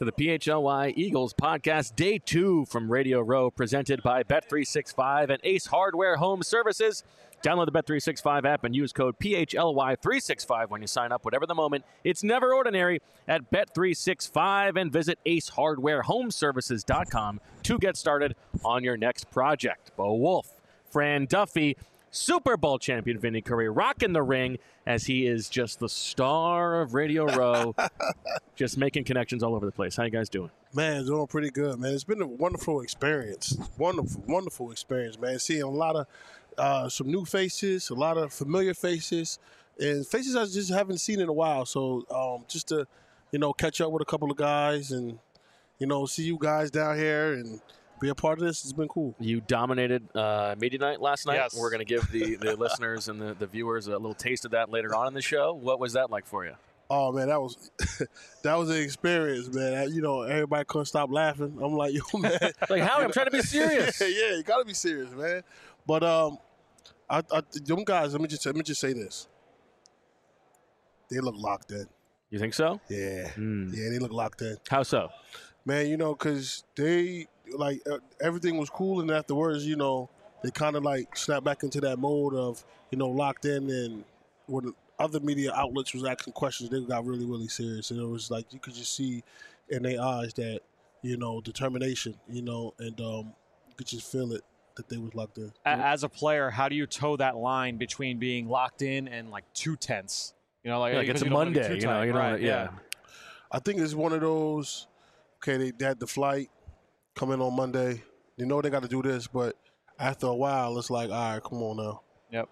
to the PHLY Eagles podcast, day 2 from Radio Row, presented by Bet365 and Ace Hardware Home Services. Download the Bet365 app and use code PHLY365 when you sign up. Whatever the moment, it's never ordinary at Bet365, and visit AceHardwareHomeservices.com to get started on your next project. Bo Wolf, Fran Duffy, Super Bowl champion Vinny Curry rocking the ring as he is just the star of Radio Row, just making connections all over the place. How you guys doing? Man, doing pretty good, man. It's been a wonderful experience. Wonderful experience, man. Seeing a lot of some new faces, a lot of familiar faces, and faces I just haven't seen in a while. So just to, catch up with a couple of guys and, see you guys down here and be a part of this. It's been cool. You dominated Media Night last night. Yes. We're going to give the listeners and the viewers a little taste of that later on in the show. What was that like for you? Oh, man, that was an experience, man. Everybody couldn't stop laughing. I'm like, yo, man. Like, Howie, I'm trying to be serious. Yeah, you got to be serious, man. But them guys, let me just say this. They look locked in. You think so? Yeah. Yeah, they look locked in. How so? Man, because they, everything was cool, and afterwards, they kind of, snapped back into that mode of, locked in, and when other media outlets was asking questions, they got really, really serious. And it was like you could just see in their eyes that, determination, and you could just feel it that they was locked in. As a player, how do you toe that line between being locked in and too tense? It's a Monday, yeah. I think it's one of those. Okay, they had the flight come in on Monday. They got to do this, but after a while, it's like, all right, come on now. Yep.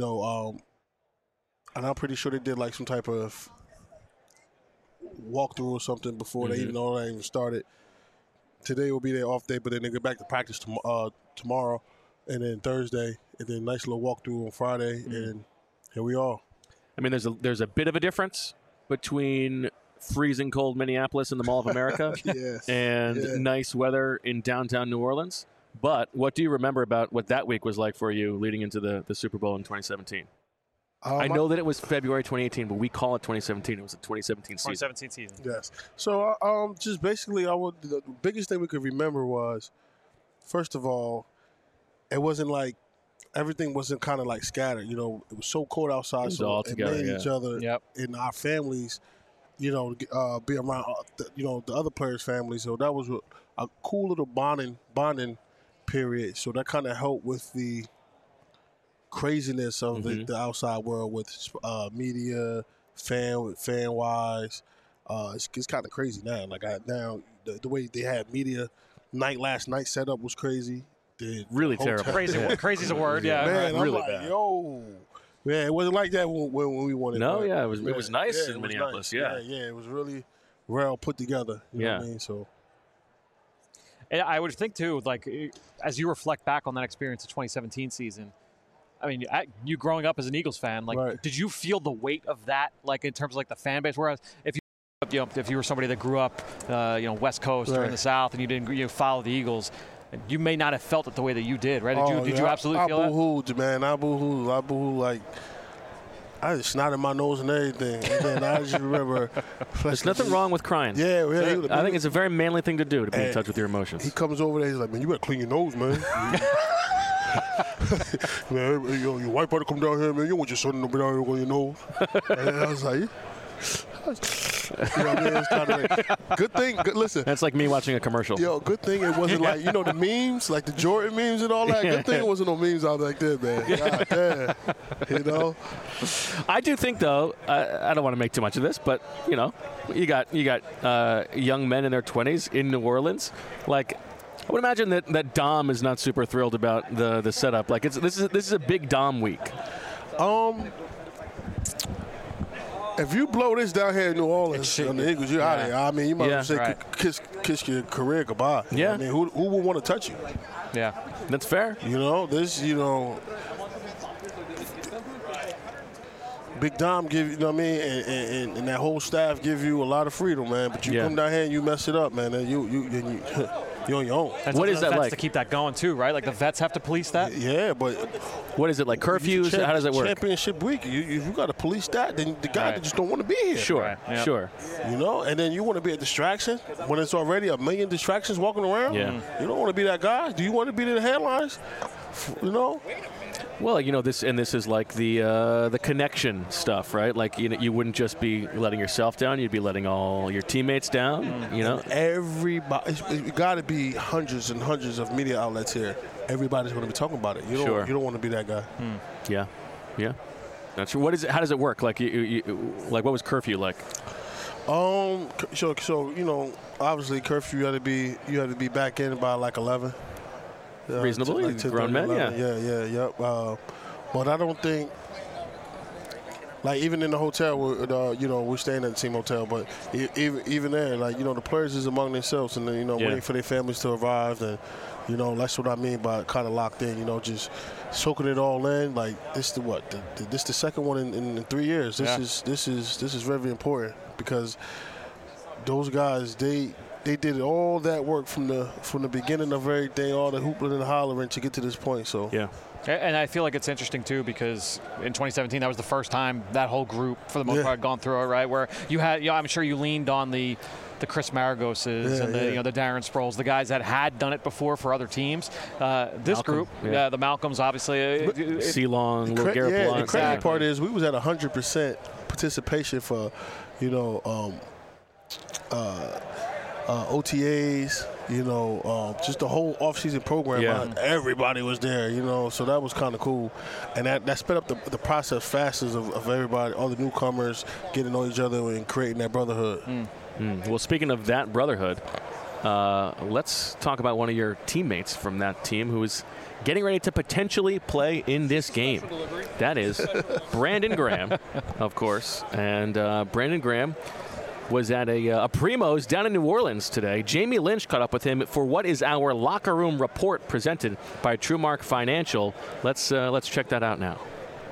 And I'm pretty sure they did some type of walkthrough or something before they even started. Today will be their off day, but then they get back to practice tomorrow, and then Thursday, and then nice little walkthrough on Friday, and here we are. I mean, there's a bit of a difference between freezing cold Minneapolis in the Mall of America and nice weather in downtown New Orleans. But what do you remember about what that week was like for you leading into the Super Bowl in 2017? I know that it was February 2018, but we call it 2017. It was the 2017 season. 2017 season. Yes. So just basically, the biggest thing we could remember was, first of all, it wasn't everything wasn't kind of scattered. It was so cold outside, so all it together, made each other and our families, be around, the other players' families. So that was a cool little bonding period. So that kind of helped with the craziness of the outside world with media, fan-wise. It's kind of crazy now. The way they had media night last night set up was crazy. Really terrible. Crazy's a word, yeah. Man, I'm really like, bad. Yo. Yeah, it wasn't like that when we won it. No, it was nice in Minneapolis, nice. Yeah, it was really well put together. You know what I mean? So. And I would think, too, as you reflect back on that experience of 2017 season, I mean, you growing up as an Eagles fan, did you feel the weight of that, in terms of the fan base? Whereas if you were somebody that grew up, West Coast or in the South, and you didn't follow the Eagles, you may not have felt it the way that you did, right? Did you absolutely feel that? I boo-hooed, man. I boo-hooed I just snotted my nose and everything. And then I just remember. There's nothing wrong with crying. Yeah. I think it's a very manly thing to do, to be in touch with your emotions. He comes over there, he's like, man, you better clean your nose, man. Man, your white brother come down here, man. You want your son to be down here with your nose. And I was like, It's kind of good thing. Listen, that's like me watching a commercial. Yo, good thing it wasn't the memes, the Jordan memes and all that. Good thing it wasn't no memes out like that, man. God damn. I do think, though, I don't want to make too much of this, but you got young men in their 20s in New Orleans, I would imagine that Dom is not super thrilled about the setup. This is a big Dom week. If you blow this down here in New Orleans on the Eagles, you're out of here. I mean, you might as well say kiss your career goodbye. Yeah. I mean, who would want to touch you? Yeah. That's fair. Big Dom give you, and that whole staff give you a lot of freedom, man. But you come down here and you mess it up, man. And you're on your own. And what is that like? To keep that going too, right? Like the vets have to police that. Yeah, but what is it like? Curfews? How does it work? Championship week. If you got to police that, then the guy just don't want to be here. Sure, Yep. sure. You know, and then you want to be a distraction when it's already a million distractions walking around. Yeah. You don't want to be that guy. Do you want to be in the headlines? You know. Well, you know, this is like the connection stuff, right? Like, you wouldn't just be letting yourself down; you'd be letting all your teammates down. You know, everybody. It's got to be hundreds and hundreds of media outlets here. Everybody's going to be talking about it. You don't want to be that guy. Yeah. That's true. What is it? How does it work? Like, like, what was curfew like? So you know, obviously curfew. You had to be back in by like 11. Reasonably, like grown men, 11. Yeah. But I don't think, like, even in the hotel, you know, we're staying at the team hotel, but even there, like, you know, the players is among themselves and, you know, waiting for their families to arrive. And, you know, that's what I mean by kind of locked in, you know, just soaking it all in. Like, this is the second one in 3 years. This is very important because those guys, they did all that work from the beginning of everything, all the hooping and hollering to get to this point. So yeah. And I feel like it's interesting too because in 2017 that was the first time that whole group for the most part had gone through it, right? Where you had, I'm sure you leaned on the Chris Maragoses and the Darren Sproles, the guys that had done it before for other teams. This group, the Malcolms, obviously, C-Long, Lil Garrett Blunt. The crazy part is we was at 100% participation for, you know, OTAs, you know, just the whole off-season program. Everybody was there, you know, so that was kind of cool. And that sped up the process faster of everybody, all the newcomers getting to know each other and creating that brotherhood. Well, speaking of that brotherhood, let's talk about one of your teammates from that team who is getting ready to potentially play in this game. That is Brandon Graham, of course. And Brandon Graham was at a Primo's down in New Orleans today. Jamie Lynch caught up with him for what is our locker room report presented by TrueMark Financial. Let's check that out now.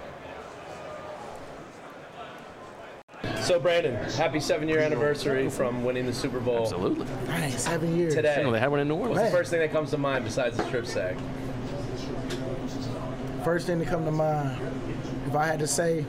So, Brandon, happy 7-year anniversary from winning the Super Bowl. Absolutely. Nice, 7 years. Today. They had one in New Orleans. What's the first thing that comes to mind besides the strip sack? First thing to come to mind, if I had to say,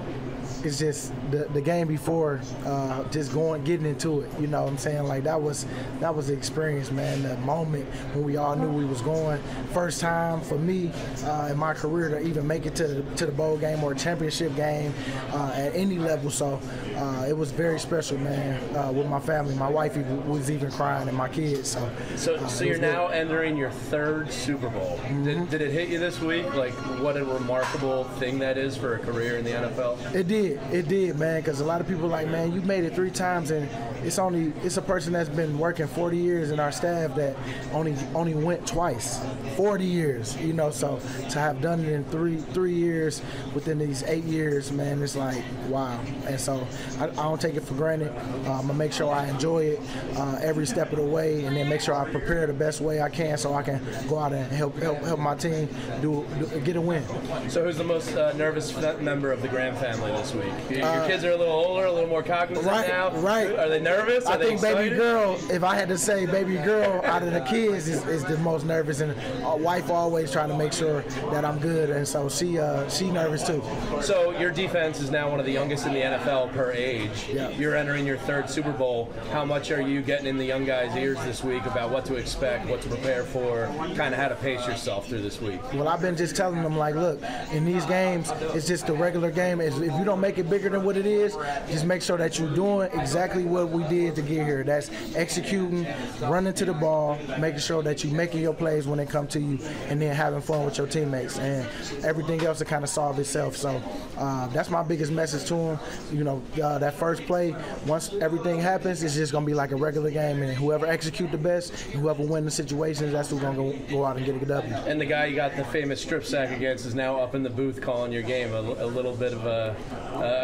it's just the game before, just getting into it. You know what I'm saying? Like that was the experience, man. The moment when we all knew we was going. First time for me in my career to even make it to the bowl game or a championship game at any level. So it was very special, man. With my family, my wife was even crying, and my kids. So you're now entering your third Super Bowl. Mm-hmm. Did it hit you this week? Like what a remarkable thing that is for a career in the NFL. It did, man, because a lot of people are like, man, you made it 3 times, and it's a person that's been working 40 years in our staff that only went twice, 40 years, you know. So to have done it in three years within these 8 years, man, it's like wow. And so I don't take it for granted. I'm gonna make sure I enjoy it every step of the way, and then make sure I prepare the best way I can so I can go out and help my team get a win. So who's the most nervous member of the Graham family this week? Your kids are a little older, a little more cognizant now. Right. Are they nervous? I think baby girl, if I had to say baby girl out of the kids is the most nervous, and wife always trying to make sure that I'm good, and so she nervous too. So your defense is now one of the youngest in the NFL per age. Yeah. You're entering your third Super Bowl. How much are you getting in the young guys' ears this week about what to expect, what to prepare for, kind of how to pace yourself through this week? Well, I've been just telling them, like, look, in these games, it's just a regular game. If you don't make it bigger than what it is, just make sure that you're doing exactly what we did to get here. That's executing, running to the ball, making sure that you're making your plays when they come to you, and then having fun with your teammates. And everything else to kind of solve itself. So that's my biggest message to them. You know, that first play, once everything happens, it's just going to be like a regular game. And whoever execute the best, and whoever win the situations, that's who's going to go out and get a W. And the guy you got the famous strip sack against is now up in the booth calling your game. A little bit of a cool moment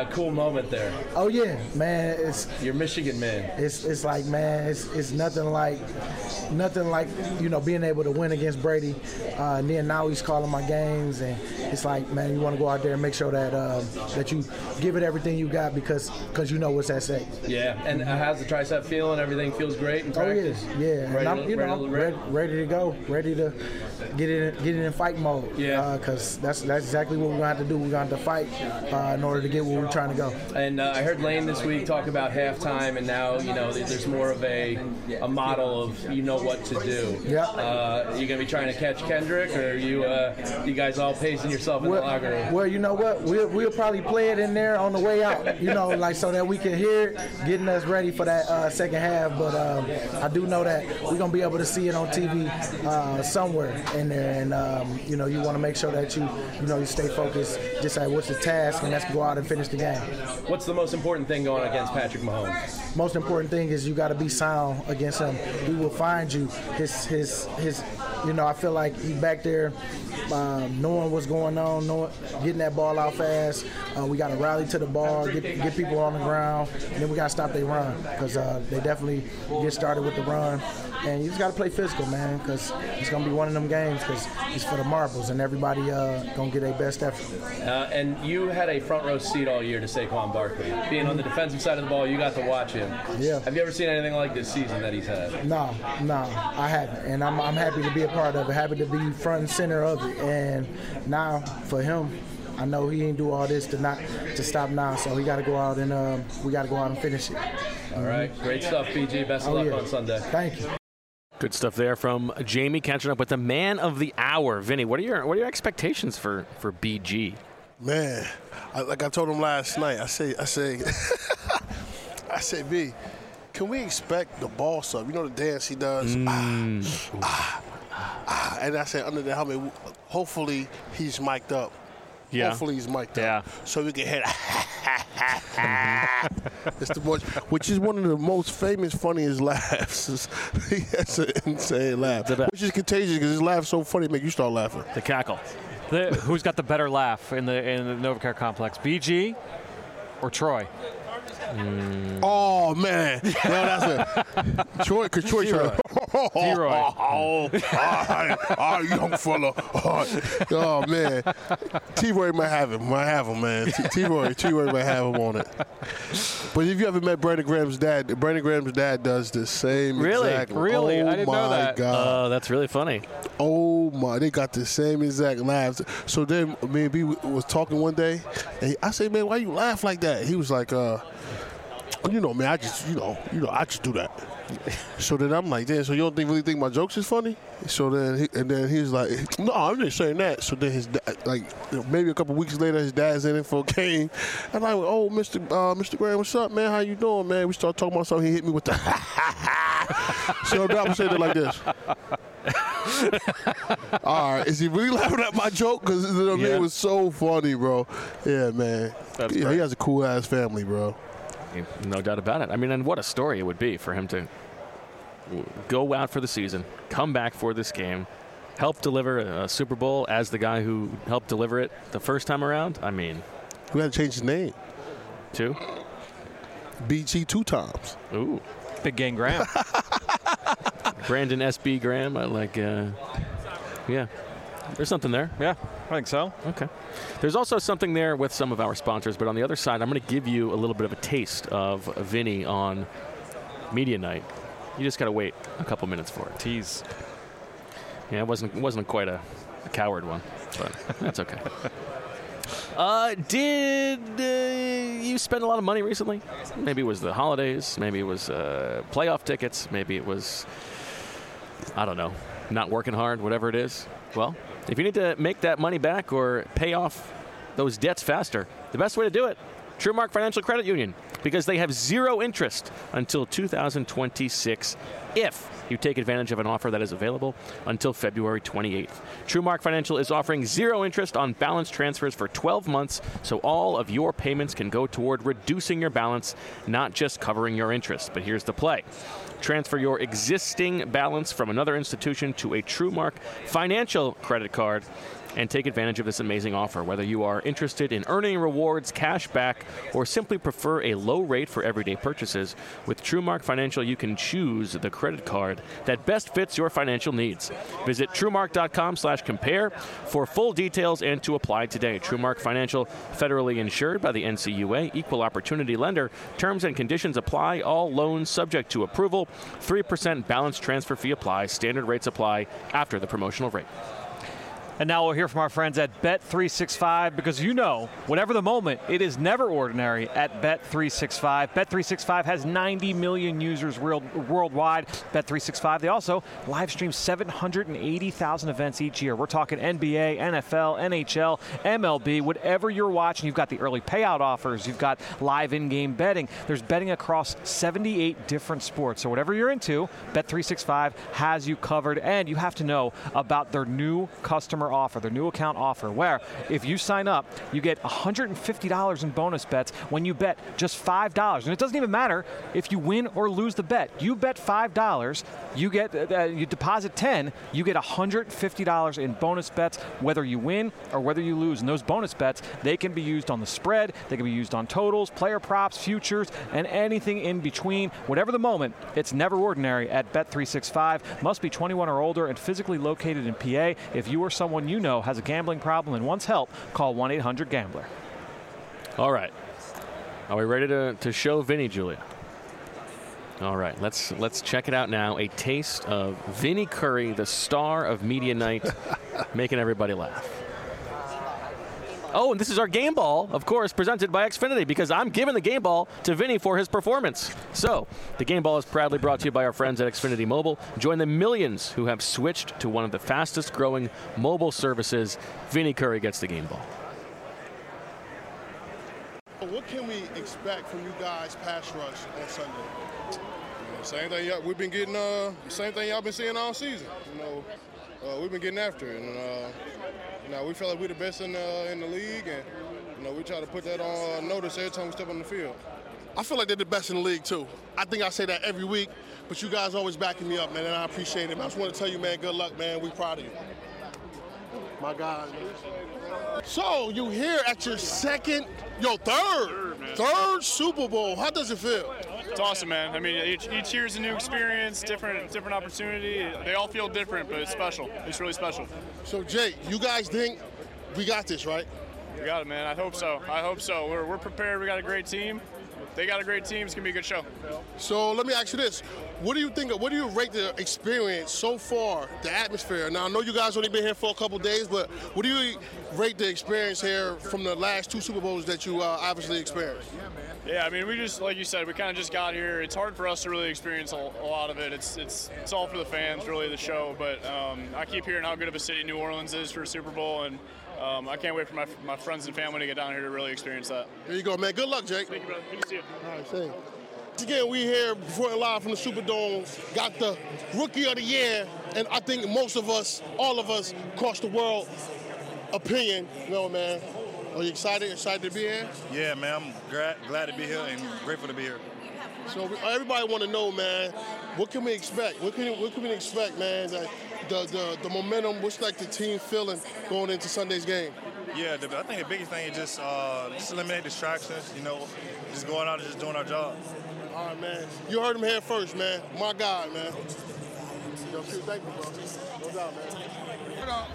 moment there. Oh yeah, man. You're Michigan, man. It's like, man, it's nothing like being able to win against Brady. And then now he's calling my games, and it's like, man, you want to go out there and make sure that that you give it everything you got because you know what's at stake. Yeah, and how's the tricep feeling? Everything feels great in practice. Oh yeah. And I'm ready to go, ready to get in fight mode. Yeah. Because that's exactly what we're gonna have to do. We're gonna have to fight in order to get where we're trying to go. And I heard Lane this week talk about halftime, and now there's more of a model of what to do. Yeah. You gonna be trying to catch Kendrick, or you guys all pacing yourself in the locker room? Well, you know what? We'll probably play it in there on the way out. So that we can hear it, getting us ready for that second half. But I do know that we're gonna be able to see it on TV somewhere in there, and you want to make sure that you stay focused. Just like what's the task, and let's go out and finish the game. What's the most important thing going against Patrick Mahomes? Most important thing is you got to be sound against him. He will find you. His I feel like he back there knowing what's going on, getting that ball out fast. We got to rally to the ball, get people on the ground, and then we got to stop their run because they definitely get started with the run. And you just got to play physical, man, because it's going to be one of them games because it's for the marbles, and everybody going to get their best effort. And you had a front row seat all year to Saquon Barkley. Being on the defensive side of the ball, you got to watch him. Yeah. Have you ever seen anything like this season that he's had? No, I haven't. And I'm happy to be a part of it, happy to be front and center of it. And now, for him, I know he ain't do all this to stop now, so we got to go out and finish it. All right, great stuff, BG. Best of luck on Sunday. Thank you. Good stuff there from Jamie, catching up with the man of the hour, Vinny. What are your expectations for BG? Man, like I told him last night, I say, B, can we expect the boss up? You know the dance he does? And I said under the helmet, hopefully he's mic'd up. Yeah. Hopefully he's mic'd up. So we can hit it's the most, which is one of the most famous, funniest laughs. He has an insane laugh, which is contagious because his laugh so funny it make you start laughing. The cackle. Who's got the better laugh in the NovaCare complex, BG or Troy? Oh man, no, that's it. Troy, because Troy tried. Oh, young fella. Oh man, T-Roy might have him. Man. T-Roy might have him on it. But if you ever met Brandon Graham's dad does the same exact. Really? Oh, I didn't know that. God. Oh, that's really funny. Oh my, they got the same exact laughs. So then me and B was talking one day, and I said, man, why you laugh like that? He was like, man, I just do that. So then I'm like, damn, so you don't really think my jokes is funny? So then he's like, no, I'm just saying that. So then his dad, maybe a couple weeks later, his dad's in it for a game. And I'm like, oh, Mr. Graham, what's up, man? How you doing, man? We start talking about something. He hit me with the So now I'm saying it like this. All right, is he really laughing at my joke? Because it was so funny, bro. Yeah, man. He has a cool ass family, bro. No doubt about it. I mean, and what a story it would be for him to go out for the season, come back for this game, help deliver a Super Bowl as the guy who helped deliver it the first time around. I mean, we had to change his name. Two? BG 2 times. Ooh. Big Game Graham. Brandon S.B. Graham. I like, yeah. There's something there. Yeah, I think so. Okay. There's also something there with some of our sponsors, but on the other side, I'm going to give you a little bit of a taste of Vinny on Media Night. You just got to wait a couple minutes for it. Tease. Yeah, it wasn't quite a coward one, but that's okay. Did you spend a lot of money recently? Maybe it was the holidays. Maybe it was playoff tickets. Maybe it was, I don't know, not working hard, whatever it is. Well, if you need to make that money back or pay off those debts faster, the best way to do it, TrueMark Financial Credit Union, because they have 0 interest until 2026 if you take advantage of an offer that is available until February 28th. TrueMark Financial is offering 0 interest on balance transfers for 12 months, so all of your payments can go toward reducing your balance, not just covering your interest. But here's the play. Transfer your existing balance from another institution to a TrueMark Financial credit card and take advantage of this amazing offer. Whether you are interested in earning rewards, cash back, or simply prefer a low rate for everyday purchases, with TrueMark Financial you can choose the credit card that best fits your financial needs. Visit TrueMark.com/compare for full details and to apply today. TrueMark Financial, federally insured by the NCUA, equal opportunity lender. Terms and conditions apply. All loans subject to approval. 3% balance transfer fee applies. Standard rates apply after the promotional rate. And now we'll hear from our friends at Bet365, because whatever the moment, it is never ordinary at Bet365. Bet365 has 90 million users worldwide. Bet365, they also live stream 780,000 events each year. We're talking NBA, NFL, NHL, MLB, whatever you're watching. You've got the early payout offers. You've got live in-game betting. There's betting across 78 different sports. So whatever you're into, Bet365 has you covered. And you have to know about their new customer offer, their new account offer, where if you sign up, you get $150 in bonus bets when you bet just $5. And it doesn't even matter if you win or lose the bet. You bet $5, you deposit $10, you get $150 in bonus bets, whether you win or whether you lose. And those bonus bets, they can be used on the spread, they can be used on totals, player props, futures, and anything in between. Whatever the moment, it's never ordinary at Bet365. Must be 21 or older and physically located in PA. If you or someone you know has a gambling problem and wants help, call 1-800-GAMBLER. All right. Are we ready to show Vinny, Julia? All right. Let's check it out now. A taste of Vinny Curry, the star of Media Night, making everybody laugh. Oh, and this is our game ball, of course, presented by Xfinity, because I'm giving the game ball to Vinny for his performance. So, the game ball is proudly brought to you by our friends at Xfinity Mobile. Join the millions who have switched to one of the fastest growing mobile services. Vinny Curry gets the game ball. What can we expect from you guys pass rush on Sunday? Same thing we've been getting. Same thing y'all been seeing all season. We've been getting after it, and we feel like we're the best in the league, and we try to put that on notice every time we step on the field. I feel like they're the best in the league too. I think I say that every week, but you guys always backing me up, man, and I appreciate it. I just want to tell you, man, good luck, man. We proud of you. My God. So you here at your third Super Bowl. How does it feel? It's awesome, man. I mean, each year is a new experience, different opportunity. They all feel different, but it's special. It's really special. So, Jay, you guys think we got this, right? We got it, man. I hope so. We're prepared. We got a great team. They got a great team. It's going to be a good show. So let me ask you this. What do you think? What do you rate the experience so far, the atmosphere? Now, I know you guys only been here for a couple days, but what do you rate the experience here from the last 2 Super Bowls that you obviously experienced? Yeah, I mean, we just, like you said, we kind of just got here. It's hard for us to really experience a lot of it. It's all for the fans, really, the show. But I keep hearing how good of a city New Orleans is for a Super Bowl, and I can't wait for my friends and family to get down here to really experience that. There you go, man. Good luck, Jake. Thank you, brother. Good to see you. All right, thanks. Again, we here reporting live from the Superdome. Got the Rookie of the Year, and I think most of us, all of us across the world, opinion. Man. Are you excited? Excited to be here? Yeah, man. I'm glad to be here and grateful to be here. So everybody want to know, man, what can we expect? What can we expect, man? The momentum. What's like the team feeling going into Sunday's game? Yeah, I think the biggest thing is just eliminate distractions. Just going out and just doing our job. All right, man. You heard him here first, man. My God, man. Yo, thank you, bro. No doubt, man. What up?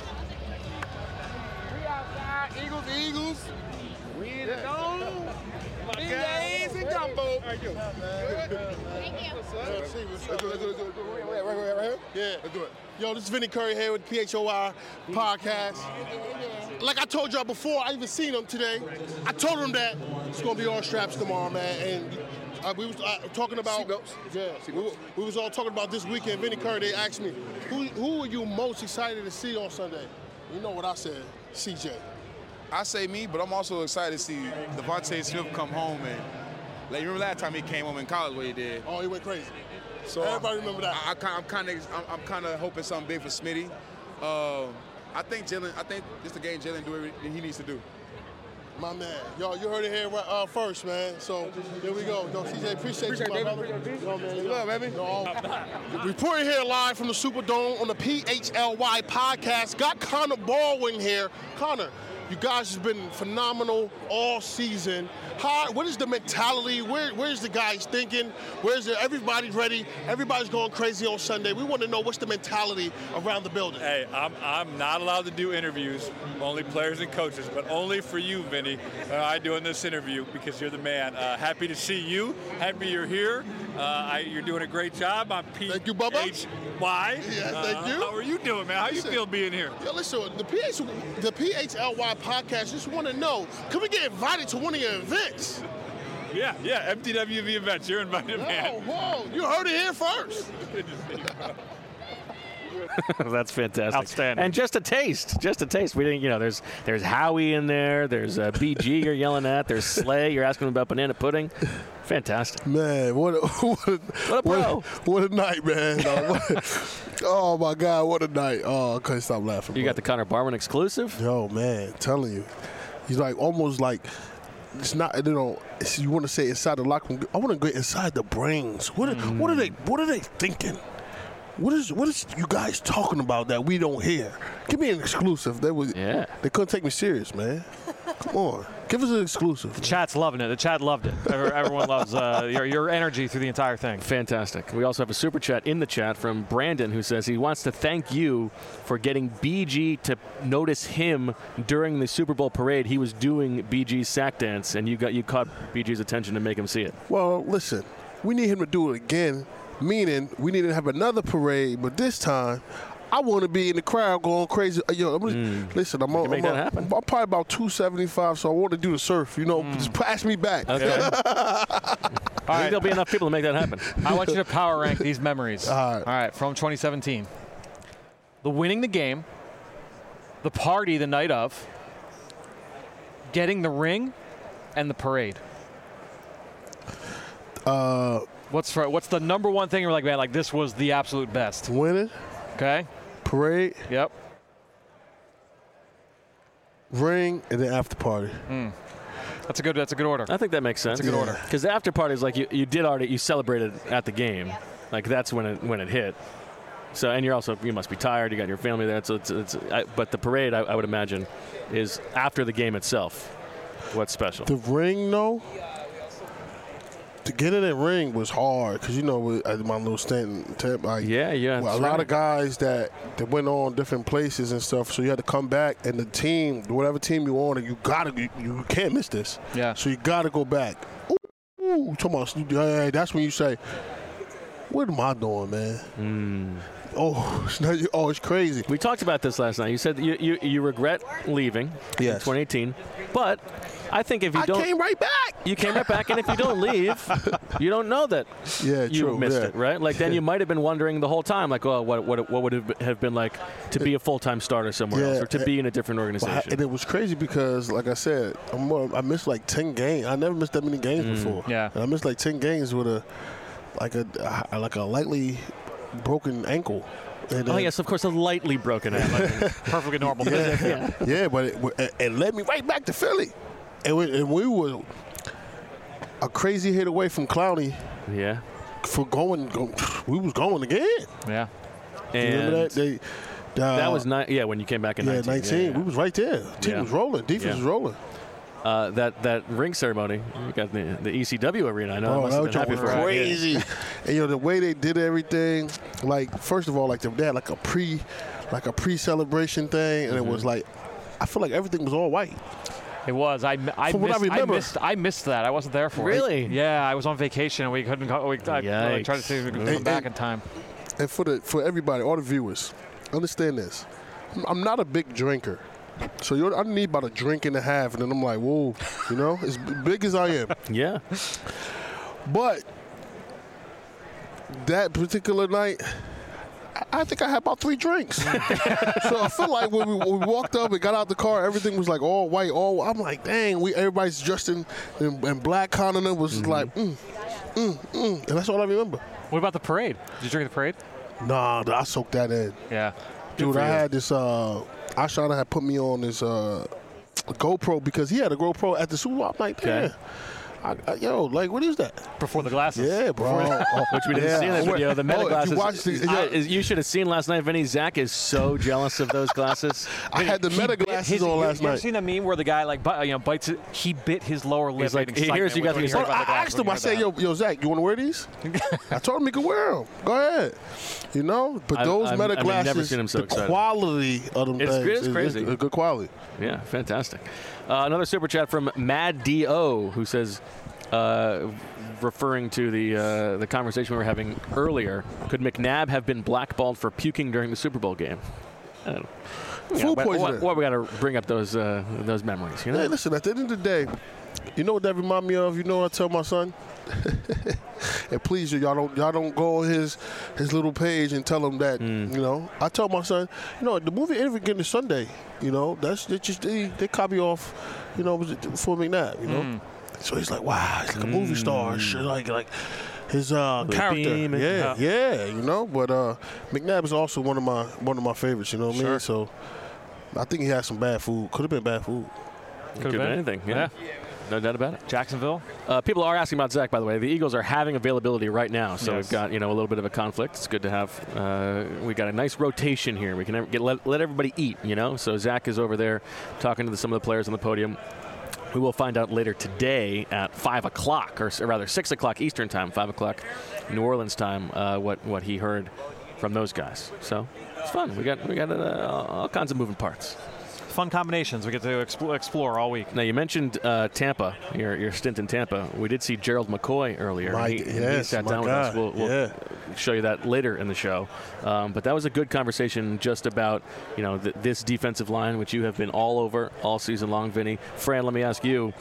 We outside, Eagles. We in the dome. BJ's and Gumbo. Thank you. Thank you. Let's do it. Right here? Yeah. Let's do it. Yo, this is Vinny Curry here with PHOI Podcast. Like I told y'all before, I even seen him today. I told him that it's going to be all straps tomorrow, man. And we was talking about seatbelts. Yeah, we was all talking about this weekend. Vinny Curry, they asked me, who are you most excited to see on Sunday? You know what I said, CJ. I say me, but I'm also excited to see Devontae Smith come home and, like, you remember last time he came home in college what he did? Oh, he went crazy. So everybody remember that. I'm kind of hoping something big for Smitty. I think this is the game Jalen do everything he needs to do. My man. Yo, you heard it here first, man. So, here we go. Yo, CJ, appreciate you, my brother. Yo, man. Love, baby. Reporting here live from the Superdome on the PHLY podcast. Got Connor Baldwin here. Connor, you guys have been phenomenal all season. What is the mentality? Where's the guys thinking? Everybody's ready? Everybody's going crazy on Sunday. We want to know what's the mentality around the building. Hey, I'm not allowed to do interviews, only players and coaches, but only for you, Vinny. I'm doing this interview because you're the man. Happy to see you. Happy you're here. You're doing a great job. I'm Thank you, Bubba. PHY. Yeah, thank you. How are you doing, man? How you feel being here? Yo, listen, the PHLY podcast just want to know, can we get invited to one of your events? Yeah, MTWV events. You're invited, man. Whoa, you heard it here first. That's fantastic. Outstanding. And just a taste. We didn't, there's Howie in there. There's BG you're yelling at. There's Slay. You're asking him about banana pudding. Fantastic. Man, what a night, man. Oh, my God, what a night. Oh, I couldn't stop laughing. You got the Connor Barwin exclusive? Yo, man, telling you. He's like almost like, it's not, you want to say inside the locker room. I want to go inside the brains. What are they thinking? What is you guys talking about that we don't hear? Give me an exclusive. They couldn't take me serious, man. Come on, give us an exclusive. The chat's loving it. The chat loved it. Everyone loves your energy through the entire thing. Fantastic. We also have a super chat in the chat from Brandon, who says he wants to thank you for getting BG to notice him during the Super Bowl parade. He was doing BG's sack dance, and you caught BG's attention to make him see it. Well, listen, we need him to do it again. Meaning, we need to have another parade, but this time, I want to be in the crowd going crazy. Yo, listen, I'm probably about 275, so I want to do the surf. Just pass me back. Okay. I think there'll be enough people to make that happen. I want you to power rank these memories. All right, from 2017. The winning the game, the party the night of, getting the ring, and the parade. What's the number one thing you're like, man, like this was the absolute best? Winning. Okay. Parade. Yep. Ring, and then after party. That's a good order. I think that makes sense. That's a good order. Because the after party is like you celebrated at the game. Like that's when it hit. So, and you must be tired. You got your family there. So but the parade, I would imagine, is after the game itself. What's special? The ring, though. To get in that ring was hard because, at my little stint, a lot of guys that went on different places and stuff, so you had to come back, and the team, whatever team you're on, you can't miss this. Yeah. So you got to go back. Ooh, that's when you say, what am I doing, man? It's crazy. We talked about this last night. You said you regret leaving in 2018, but I think if you don't, I came right back. You came right back, and if you don't leave, you don't know that you missed it, right? Like then you might have been wondering the whole time, like, oh, what would it have been like to be a full-time starter somewhere else, or to be in a different organization? And it was crazy because, like I said, I missed like 10 games. I never missed that many games before. Yeah, and I missed like 10 games with a lightly broken ankle. And, yes, of course, a lightly broken ankle. Perfectly normal. But it led me right back to Philly. And we were a crazy hit away from Clowney. Yeah. We was going again. Yeah. And remember that? That was when you came back in 19. 19. Yeah. We was right there. Team was rolling. Defense was rolling. That ring ceremony, you got the ECW arena. I know. That was crazy. And the way they did everything, like first of all, like they had like a pre-celebration thing, and it was like, I feel like everything was all white. It was. I missed that. I wasn't there for it. Really? Yeah, I was on vacation and we couldn't. I tried to see if we could come back in time. And for everybody, all the viewers, understand this. I'm not a big drinker. So I need about a drink and a half, and then I'm like, whoa, as big as I am. Yeah. But that particular night, I think I had about 3 drinks. So I feel like when we walked up and got out the car, everything was like all white. I'm like, dang, everybody's dressed in black. Connor was like, And that's all I remember. What about the parade? Did you drink the parade? Nah, I soaked that in. Yeah. Dude, I had this, Ashana had put me on this GoPro because he had a GoPro at the Super Bowl. I'm like, damn. Yo, like, what is that? Before the glasses. Yeah, bro. Which we didn't see in that video. The meta glasses. You should have seen last night, Vinny. Zach is so jealous of those glasses. I had the meta glasses on last night. You ever seen that meme where the guy like bites it? He bit his lower lip. He's like, here's you guys. I asked him. I said, yo, Zach, you want to wear these? I told him he could wear them. Go ahead. You know, but those meta glasses, never seen him so excited. Quality of them things it's crazy. It's good quality. Yeah, fantastic. Another super chat from Mad Do, who says, referring to the conversation we were having earlier, could McNabb have been blackballed for puking during the Super Bowl game? I don't know. Food poisoning. What we got to bring up those memories, you know? Hey, listen, at the end of the day, you know what that remind me of? You know what I tell my son? And please, y'all don't go on his little page and tell him that, you know. I tell my son, you know, the movie Everything is Sunday, you know, that's just they copy off, you know, for McNabb, you know. So he's like, wow, he's like a movie star, like his character. Yeah, you know. But McNabb is also one of my favorites. You know what I mean? So I think he had some bad food. Could have been bad food. Could have been anything. Yeah. No doubt about it. Jacksonville. People are asking about Zach, by the way. The Eagles are having availability right now, so we've got a little bit of a conflict. It's good to have. We got a nice rotation here. We can let everybody eat. You know, so Zach is over there talking to some of the players on the podium. We will find out later today at 5 o'clock, or rather 6 o'clock Eastern time, 5 o'clock New Orleans time, what he heard from those guys. So it's fun. We got all kinds of moving parts. Fun combinations we get to explore all week. Now, you mentioned Tampa, your stint in Tampa. We did see Gerald McCoy earlier. He sat down with us. We'll show you that later in the show. But that was a good conversation just about, you know, this defensive line, which you have been all over all season long, Vinny. Fran, let me ask you,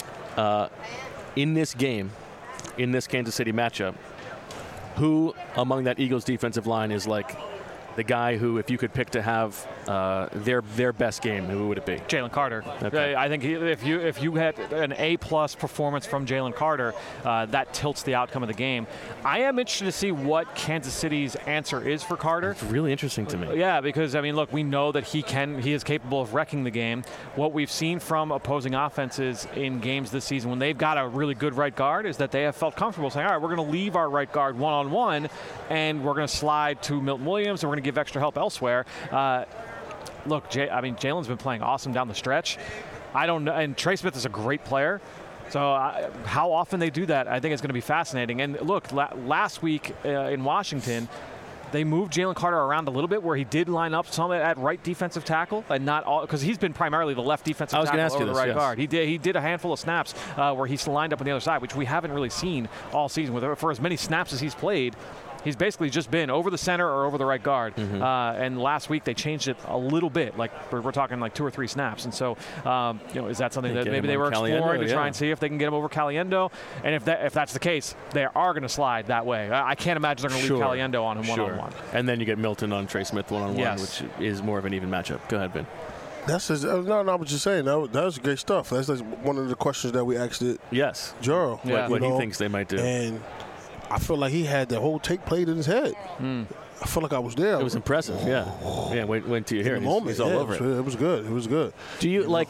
in this game, in this Kansas City matchup, who among that Eagles defensive line is like the guy who, if you could pick to have their best game, who would it be? Jalen Carter. Okay. I think if you had an A-plus performance from Jalen Carter, that tilts the outcome of the game. I am interested to see what Kansas City's answer is for Carter. It's really interesting to me. Yeah, because I mean, look, we know that he is capable of wrecking the game. What we've seen from opposing offenses in games this season, when they've got a really good right guard, is that they have felt comfortable saying, all right, we're going to leave our right guard one-on-one, and we're going to slide to Milton Williams, and we're going to give extra help elsewhere. Look, Jalen's been playing awesome down the stretch. I don't know, and Trey Smith is a great player. So how often they do that, I think it's going to be fascinating. And look, last week in Washington, they moved Jalen Carter around a little bit, where he did line up some at right defensive tackle, and not all, because he's been primarily the left defensive tackle over the right guard. He did a handful of snaps where he's lined up on the other side, which we haven't really seen all season. For as many snaps as he's played, he's basically just been over the center or over the right guard. And last week they changed it a little bit. Like we're talking like 2 or 3 snaps. And so, is that something that maybe they were exploring to try and see if they can get him over Caliendo? And if that's the case, they are going to slide that way. I can't imagine they're going to leave Caliendo on him one-on-one. And then you get Milton on Trey Smith one-on-one, which is more of an even matchup. Go ahead, Ben. No, I was just saying that was great stuff. That's one of the questions that we asked it. Yes. Juro. What he thinks they might do. And I feel like he had the whole tape played in his head. I feel like I was there. It was impressive. Yeah. Wait till you hear it. He's all over it. It was good. It was good. Do you like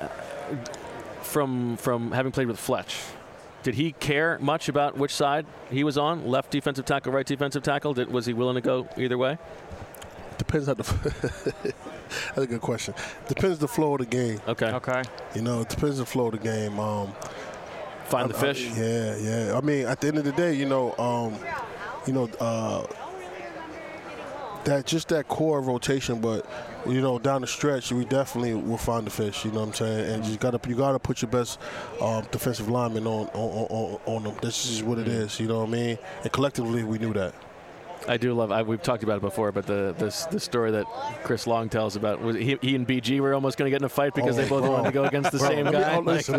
from having played with Fletch? Did he care much about which side he was on? Left defensive tackle, right defensive tackle? Was he willing to go either way? Depends on that's a good question. Depends the flow of the game. Okay. You know, it depends the flow of the game. Find the fish. Yeah. I mean, at the end of the day, that core rotation, but down the stretch, we definitely will find the fish. You know what I'm saying? And you gotta put your best defensive lineman on them. This is what it is. You know what I mean? And collectively, we knew that. I do love. We've talked about it before, but the story that Chris Long tells about was he and BG were almost going to get in a fight because they both wanted to go against the same guy. Listen.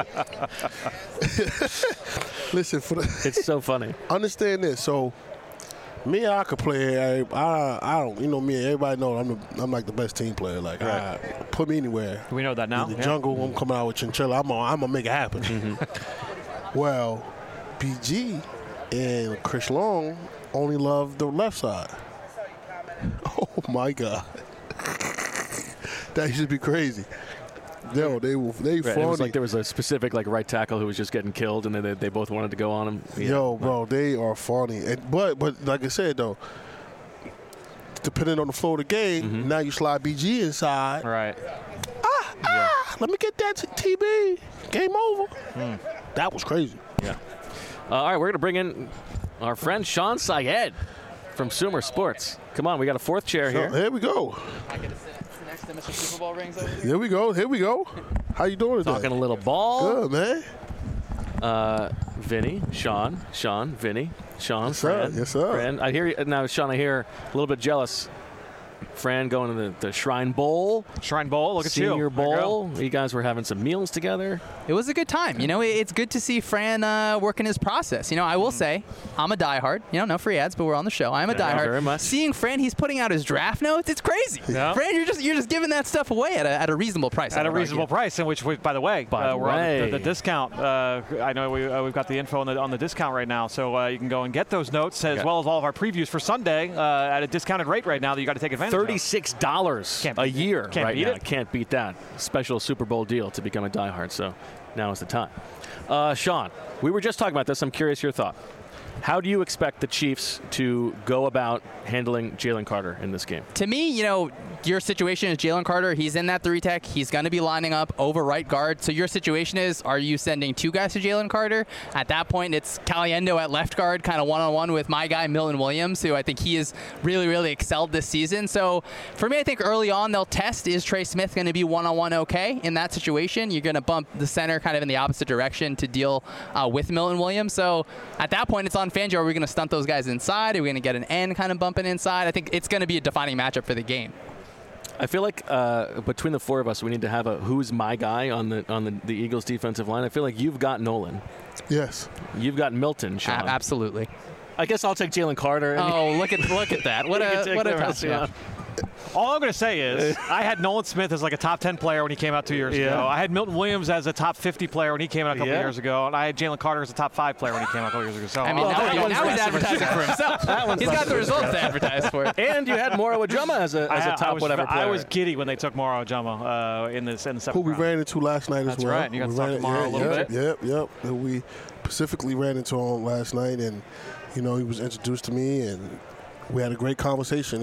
Listen. It's so funny. Understand this. So, me, I could play. I don't. Me, everybody knows I'm like the best team player. Like, put me anywhere. We know that now. In the jungle, I'm coming out with Chinchilla. I'm gonna make it happen. Well, BG and Chris Long only love the left side. Oh my God, that used to be crazy. No, they funny. It was like there was a specific right tackle who was just getting killed, and then they both wanted to go on him. Yeah. Yo, bro, they are funny. And but like I said though, depending on the flow of the game, now you slide BG inside. Right. Let me get that TB. Game over. That was crazy. Yeah. All right, we're going to bring in our friend Sean Syed from Sumer Sports. Come on, we got a fourth chair here. Here we go. I get to sit next to Mr. Super Bowl rings over here. Here we go. How you doing today? Talking a little ball. Good, man. Vinny, Sean, Vinny, Sean, yes, Fran. Yes, sir. Fran. I hear you now, Sean. I hear a little bit jealous. Fran going to the Shrine Bowl. Shrine Bowl, look at you. Senior Bowl. You guys were having some meals together. It was a good time. It's good to see Fran working his process. I will say, I'm a diehard. No free ads, but we're on the show. I'm a diehard. Very much. Seeing Fran, he's putting out his draft notes. It's crazy. Yeah. Fran, you're just giving that stuff away at a reasonable price. At a reasonable price, in which, by the way, we're on the discount. I know we've got the info on the discount right now, so you can go and get those notes as well as all of our previews for Sunday at a discounted rate right now that you got to take advantage of. $36 a year right now. Can't beat that. Special Super Bowl deal to become a diehard, so now is the time. Sean, we were just talking about this. I'm curious your thought. How do you expect the Chiefs to go about handling Jalen Carter in this game? To me, your situation is Jalen Carter. He's in that 3-tech. He's going to be lining up over right guard. So your situation is, are you sending two guys to Jalen Carter? At that point, it's Caliendo at left guard, kind of one-on-one with my guy, Milton Williams, who I think he has really, really excelled this season. So for me, I think early on they'll test, is Trey Smith going to be one-on-one okay in that situation? You're going to bump the center kind of in the opposite direction to deal with Milton Williams. So at that point, it's on Fangio. Are we going to stunt those guys inside? Are we going to get an end kind of bumping inside? I think it's going to be a defining matchup for the game. I feel like between the four of us, we need to have a who's my guy on the Eagles defensive line. I feel like you've got Nolan. Yes. You've got Milton, Sean. Absolutely. I guess I'll take Jalen Carter. Oh, look at that. What a touchdown. All I'm going to say is I had Nolan Smith as like a top 10 player when he came out 2 years ago. I had Milton Williams as a top 50 player when he came out a couple years ago. And I had Jalen Carter as a top 5 player when he came out a couple years ago. So now he's advertising for himself. He's got the results to advertise for. And you had Moro Ajama as a top whatever player. I was giddy when they took Moro Ajama in the second round. Who we ran into last night as well. That's right. You got to talk to Moro a little bit. Yep. And we specifically ran into him last night, and he was introduced to me, and we had a great conversation.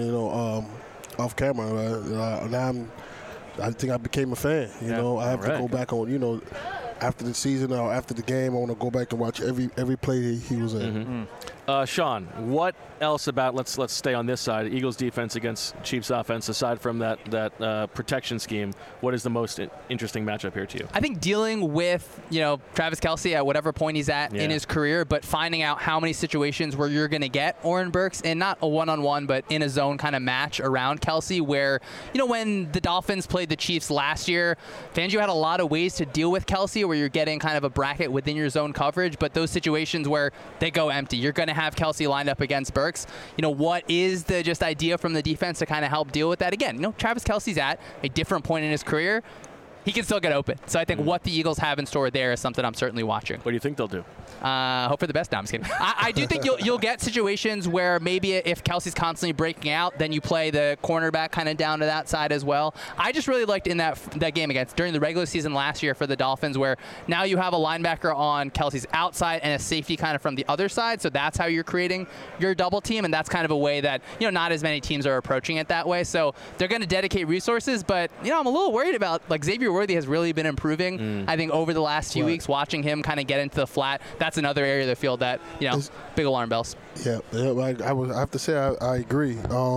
Off camera, now I think I became a fan. I have to go back on. After the season or after the game, I want to go back and watch every play he was in. Sean, what else about let's stay on this side? Eagles defense against Chiefs offense. Aside from that protection scheme, what is the most interesting matchup here to you? I think dealing with Travis Kelce at whatever point he's at in his career, but finding out how many situations where you're going to get Oren Burks in not a one-on-one, but in a zone kind of match around Kelce. Where when the Dolphins played the Chiefs last year, Fangio had a lot of ways to deal with Kelce, where you're getting kind of a bracket within your zone coverage, but those situations where they go empty, you're going to have Kelce lined up against Burks. What is the just idea from the defense to kind of help deal with that? Again, Travis Kelce's at a different point in his career. He can still get open. So I think what the Eagles have in store there is something I'm certainly watching. What do you think they'll do? Hope for the best. No, I'm just kidding. I do think you'll get situations where maybe if Kelce's constantly breaking out, then you play the cornerback kind of down to that side as well. I just really liked in that game during the regular season last year for the Dolphins, where now you have a linebacker on Kelce's outside and a safety kind of from the other side. So that's how you're creating your double team, and that's kind of a way that not as many teams are approaching it that way. So they're going to dedicate resources, but I'm a little worried about Xavier Worthy has really been improving. I think over the last few weeks, watching him kind of get into the flat. That's another area of the field that, big alarm bells. Yeah, I have to say I agree.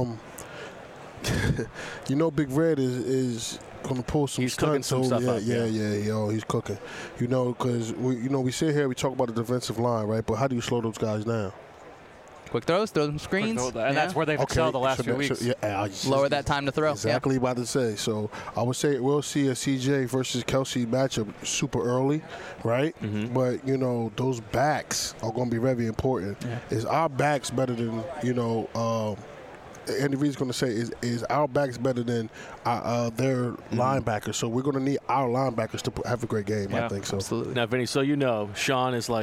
Big Red is going to pull some stunts. Some stuff up. He's cooking. Because we sit here, we talk about the defensive line, right? But how do you slow those guys down? Quick throws, throw some screens. And that's where they've excelled the last few weeks. Lower that time to throw. Exactly about to say. So I would say we'll see a CJ versus Kelce matchup super early, right? Mm-hmm. But, those backs are going to be very important. Yeah. Is our backs better than, Andy Reid's going to say is our backs better than their linebackers. So we're going to need our linebackers to have a great game, I think so. Absolutely. Now, Vinny, Sean is like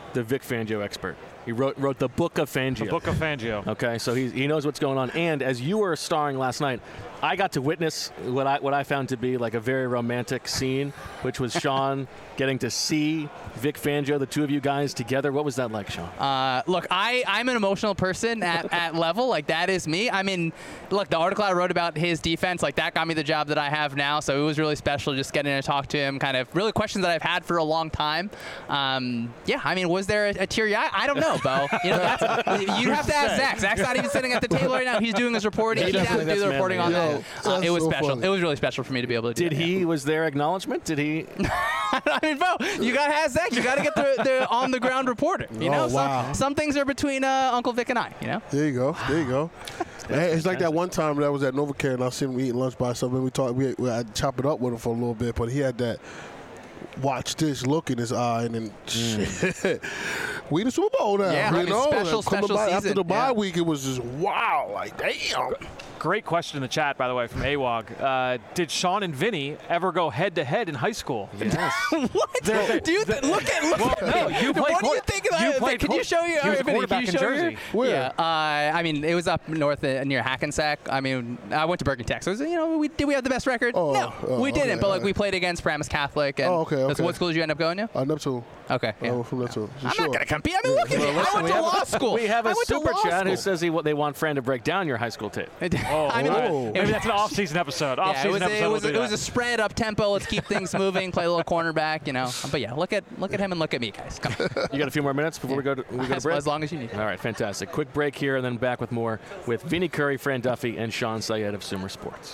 the Vic Fangio expert. He wrote the Book of Fangio. The Book of Fangio. Okay, so he knows what's going on. And as you were starring last night, I got to witness what I found to be like a very romantic scene, which was Sean getting to see Vic Fangio, the two of you guys together. What was that like, Sean? Look, I'm an emotional person at level. Like, that is me. I mean, look, the article I wrote about his defense, like, that got me the job that I have now. So it was really special just getting to talk to him, kind of really questions that I've had for a long time. Yeah, I mean, was there a teary eye? I don't know, Bo. You know, you'd have to ask Zach. Zach's not even sitting at the table right now. He's doing his reporting. He'd have to do the reporting on that. It was so special. Funny. It was really special for me to be able to do that. Was there acknowledgement? Did he? I mean, Bo, you got to ask Zach. You got to get the on-the-ground reporter. You know, wow. Some things are between Uncle Vic and I, you know? There you go. There you go. It's like that one time that I was at NovaCare and I seen him eating lunch by something. I chop it up with him for a little bit, but he had that watch this look in his eye, and then we the Super Bowl now. Yeah, you know? special season. After the bye week, it was just wow, like damn. Great question in the chat, by the way, from AWOG. Did Sean and Vinny ever go head-to-head in high school? Yes. What? Dude, look at no, you played. What do you think of that? Can you show you? He was a quarterback in Jersey. Where? Yeah, I mean, it was up north near Hackensack. I mean, I went to Bergen Tech. So, you know, did we have the best record? No, we didn't. Okay, but like we played against Paramus Catholic. And okay. So what school did you end up going to? Neptune. Okay. Yeah. From Neptune. I'm not gonna compete. I mean, look at me. I went to law school. We have a super chat who says they want Fran to break down your high school tape. I mean, maybe that's an off-season episode. It was a spread up tempo. Let's keep things moving. Play a little cornerback, you know. But yeah, look at him and look at me, guys. Come on. You got a few more minutes before we go to break? As long as you need. All right, fantastic. Quick break here, and then back with more with Vinny Curry, Fran Duffy, and Sean Syed of Sumer Sports.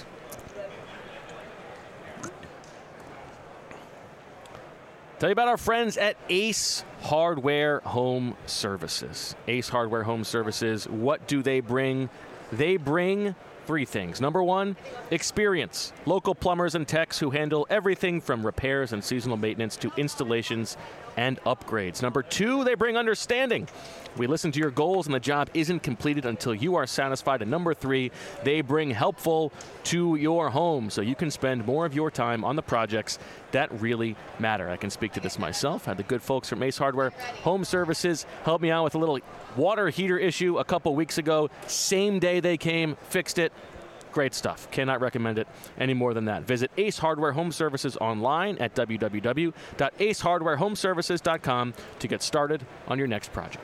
Tell you about our friends at Ace Hardware Home Services. Ace Hardware Home Services, what do they bring? They bring three things. Number one, experience. Local plumbers and techs who handle everything from repairs and seasonal maintenance to installations and upgrades. Number two, they bring understanding. We listen to your goals and the job isn't completed until you are satisfied. And number three, they bring helpful to your home so you can spend more of your time on the projects that really matter. I can speak to this myself. I had the good folks from Ace Hardware Home Services help me out with a little water heater issue a couple weeks ago. Same day they came, fixed it. Great stuff. Cannot recommend it any more than that. Visit Ace Hardware Home Services online at www.acehardwarehomeservices.com to get started on your next project.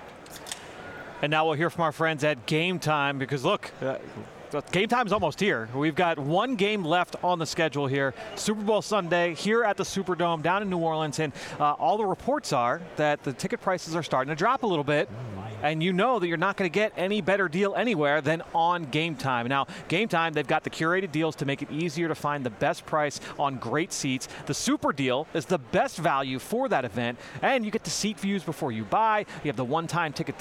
And now we'll hear from our friends at Game Time because, look, Game Time is almost here. We've got one game left on the schedule here. Super Bowl Sunday here at the Superdome down in New Orleans. And all the reports are that the ticket prices are starting to drop a little bit. And you know that you're not going to get any better deal anywhere than on Game Time. Now, Game Time, they've got the curated deals to make it easier to find the best price on great seats. The Super Deal is the best value for that event. And you get the seat views before you buy. You have the on-time ticket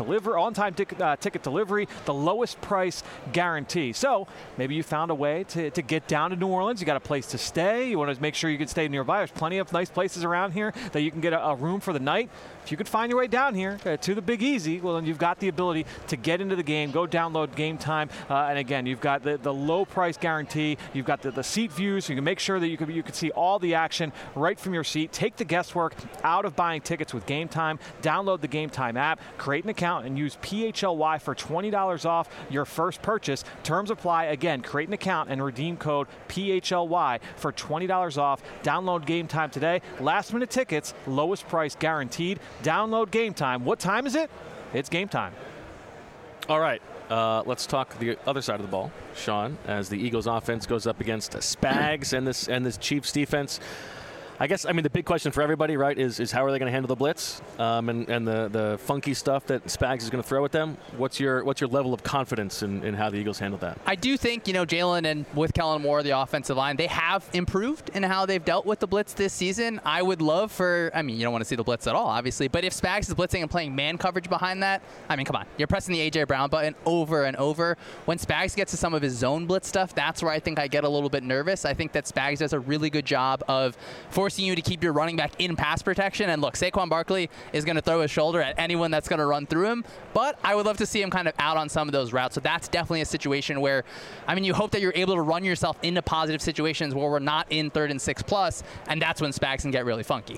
delivery, the lowest price guarantee. So maybe you found a way to get down to New Orleans. You got a place to stay. You want to make sure you can stay nearby. There's plenty of nice places around here that you can get a room for the night. If you could find your way down here to the Big Easy, well, then you've got the ability to get into the game, go download Game Time. And again, you've got the low price guarantee. You've got the seat views, so you can make sure that you can see all the action right from your seat. Take the guesswork out of buying tickets with Game Time. Download the Game Time app, create an account, and use PHLY for $20 off your first purchase. Terms apply. Again, create an account and redeem code PHLY for $20 off. Download Game Time today. Last minute tickets, lowest price guaranteed. Download Game Time. What time is it? It's game time. All right. Let's talk the other side of the ball, Sean, as the Eagles offense goes up against Spags and this Chiefs defense. I guess, I mean, the big question for everybody, right, is how are they going to handle the blitz and the funky stuff that Spags is going to throw at them? What's your level of confidence in how the Eagles handle that? I do think, Jalen and with Kellen Moore, the offensive line, they have improved in how they've dealt with the blitz this season. I would love you don't want to see the blitz at all, obviously, but if Spags is blitzing and playing man coverage behind that, I mean, come on. You're pressing the A.J. Brown button over and over. When Spags gets to some of his zone blitz stuff, that's where I think I get a little bit nervous. I think that Spags does a really good job of forcing you to keep your running back in pass protection. And look, Saquon Barkley is going to throw his shoulder at anyone that's going to run through him, but I would love to see him kind of out on some of those routes. So that's definitely a situation where, you hope that you're able to run yourself into positive situations where we're not in 3rd and 6+, and that's when Spags can get really funky.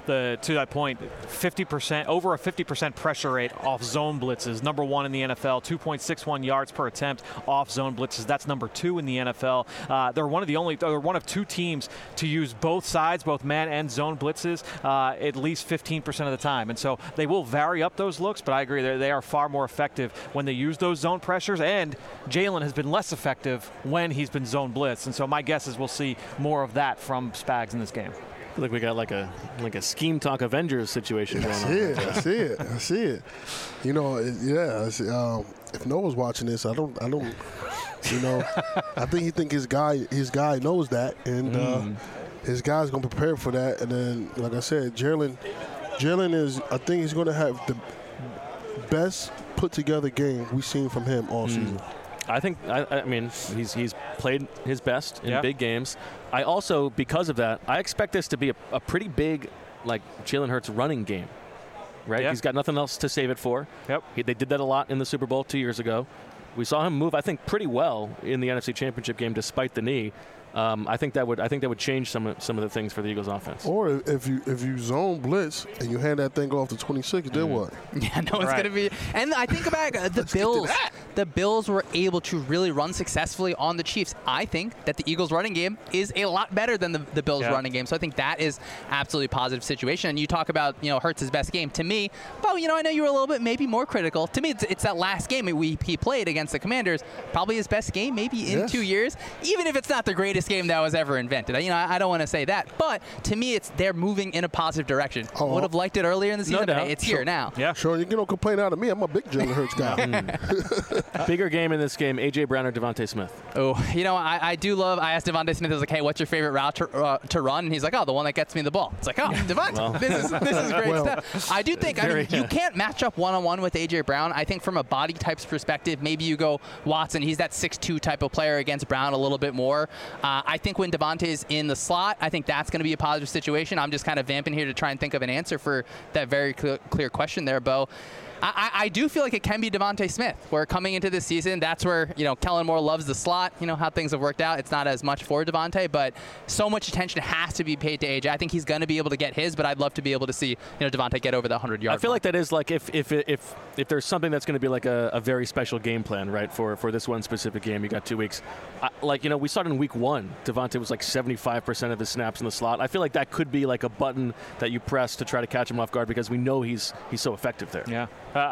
to that point, 50%, over a 50% pressure rate off zone blitzes. Number 1 in the NFL, 2.61 yards per attempt off zone blitzes. That's number 2 in the NFL. They're one of 2 teams to use both sides, both man and zone blitzes, at least 15% of the time. And so they will vary up those looks, but I agree they are far more effective when they use those zone pressures. And Jalen has been less effective when he's been zone blitzed. And so my guess is we'll see more of that from Spags in this game. I feel like we got like a scheme talk Avengers situation going on. I see it. You know, if Noah's watching this, I don't. You know, I think his guy knows that, and his guy's gonna prepare for that. And then, like I said, Jalen is. I think he's gonna have the best put together game we've seen from him all season. I mean, he's played his best in big games. I also, because of that, I expect this to be a pretty big, like, Jalen Hurts running game, right? He's got nothing else to save it for. Yep. They did that a lot in the Super Bowl 2 years ago. We saw him move, I think, pretty well in the NFC Championship game despite the knee. I think that would change some of the things for the Eagles offense. Or if you zone blitz and you hand that thing off to 26, then what? Yeah, no one's going to be. And I think about the Bills. The Bills were able to really run successfully on the Chiefs. I think that the Eagles running game is a lot better than the Bills running game. So I think that is absolutely a positive situation. And you talk about, Hurts' best game. To me, I know you were a little bit maybe more critical. To me, it's that last game he played against the Commanders. Probably his best game maybe in 2 years. Even if it's not the greatest game that was ever invented. I don't want to say that, but to me, they're moving in a positive direction. Would have liked it earlier in the season, but it's here now. Yeah, sure. You don't complain out of me. I'm a big Jalen Hurts guy. Bigger game in this game: A.J. Brown or Devontae Smith? Oh, I do love. I asked Devontae Smith, I was like, "Hey, what's your favorite route to run?" And he's like, "Oh, the one that gets me the ball." It's like, "Oh, Devontae, this is great stuff." I do think you can't match up one-on-one with A.J. Brown. I think from a body types perspective, maybe you go Watson. He's that 6'2" type of player against Brown a little bit more. I think when Devontae's in the slot, I think that's going to be a positive situation. I'm just kind of vamping here to try and think of an answer for that very clear question there, Bo. I do feel like it can be Devontae Smith. Where coming into this season, that's where Kellen Moore loves the slot. How things have worked out. It's not as much for Devontae, but so much attention has to be paid to AJ. I think he's going to be able to get his, but I'd love to be able to see Devontae get over the 100-yard. I feel like that is like if there's something that's going to be like a very special game plan, right? For this one specific game, you got 2 weeks. We saw it in week 1. Devontae was like 75% of his snaps in the slot. I feel like that could be like a button that you press to try to catch him off guard because we know he's so effective there. Yeah.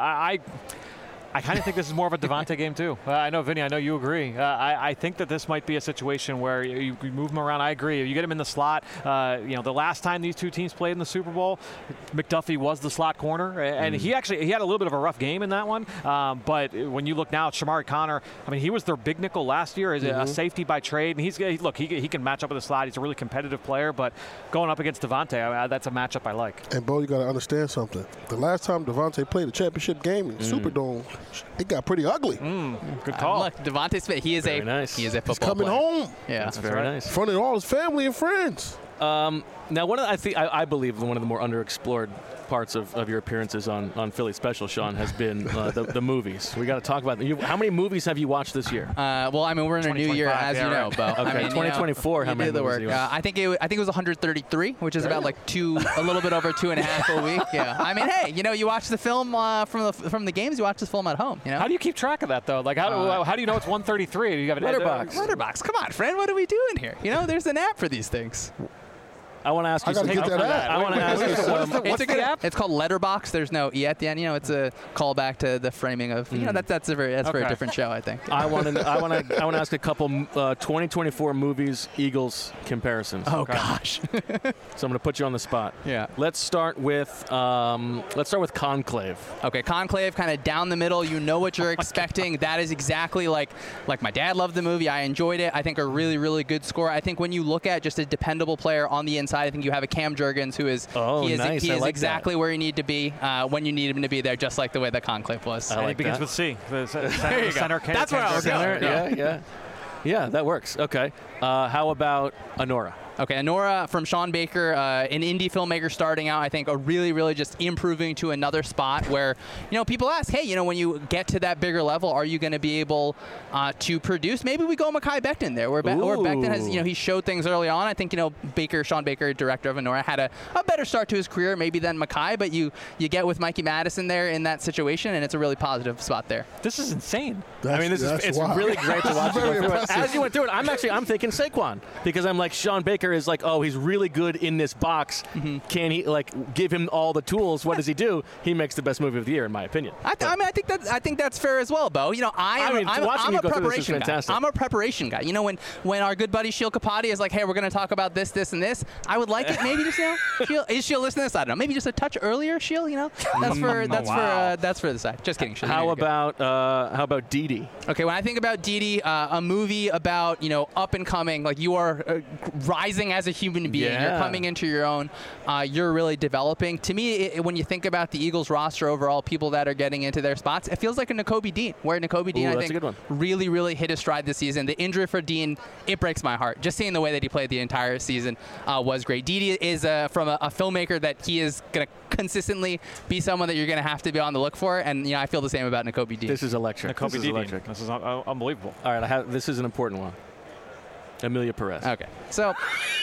I kind of think this is more of a Devontae game, too. I know, Vinny, I know you agree. I think that this might be a situation where you move him around. I agree. You get him in the slot. The last time these two teams played in the Super Bowl, McDuffie was the slot corner, and he had a little bit of a rough game in that one. But when you look now at Shamari Connor, he was their big nickel last year as a safety by trade, and he can match up with the slot. He's a really competitive player, but going up against Devontae, that's a matchup I like. And, Bo, you got to understand something. The last time Devontae played a championship game in the Superdome, it got pretty ugly. Good call. Look, Devontae Smith, he is a football He's coming player. home. Yeah, that's very nice. In front of all his family and friends. Now, I believe one of the more underexplored parts of your appearances on Philly Special, Sean, has been the movies. We got to talk about them. How many movies have you watched this year? We're in a new year, as you know, Bo. Okay, 2024. How many movies? I think it was 133, which is about a little bit over 2.5 a week. Yeah. You watch the film from the games. You watch the film at home. How do you keep track of that though? Like how do you know it's 133? You have an Letterbox. Letterbox. Come on, friend. What are we doing here? There's an app for these things. I want to ask you something. What's the app? It's called Letterbox. There's no E at the end. It's a callback to the framing of. That's a very different show, I think. I want to ask a couple 2024 movies Eagles comparisons. Oh gosh. So I'm going to put you on the spot. Yeah. Let's start with Conclave. Okay, Conclave, kind of down the middle. You know what you're expecting. That is exactly like my dad loved the movie. I enjoyed it. I think a really, really good score. I think when you look at just a dependable player on the inside, I think you have a Cam Jurgens who is he is exactly where you need to be when you need him to be there, just like the way that Conclave was. And it begins with C. The center. That's where I was going. Yeah, that works. Okay. How about Anora? Okay, Anora from Sean Baker, an indie filmmaker starting out, I think, really just improving to another spot where, people ask, hey, when you get to that bigger level, are you going to be able to produce? Maybe we go Mekhi Becton there, where Becton has, he showed things early on. I think, Sean Baker, director of Anora, had a better start to his career maybe than Mekhi, but you get with Mikey Madison there in that situation, and it's a really positive spot there. This is insane. It's really great to watch you go through it. As you went through it, I'm thinking Saquon, because I'm like, Sean Baker is like, oh, he's really good in this box. Can he give him all the tools? What does he do? He makes the best movie of the year, in my opinion. I think that's fair as well, Bo. I'm a preparation guy. I'm a preparation guy. When our good buddy Sheil Kapati is like, hey, we're going to talk about this, and this, I would like it maybe just is Sheil listening to this? I don't know. Maybe just a touch earlier, Sheil. That's for the side. Just kidding. Sheil, how about Didi? Okay, when I think about Didi, a movie about up and coming, like you are rising as a human being. You're coming into your own. You're really developing. To me, when you think about the Eagles roster overall, people that are getting into their spots, it feels like a Nakobe Dean, where Nakobe Dean, I think, really hit his stride this season. The injury for Dean, it breaks my heart. Just seeing the way that he played the entire season was great. Didi is from a filmmaker that he is going to consistently be someone that you're going to have to be on the look for, and I feel the same about Nakobe Dean. This is electric. Nakobe Dean. This is unbelievable. All right, this is an important one. Amelia Perez. Okay, so.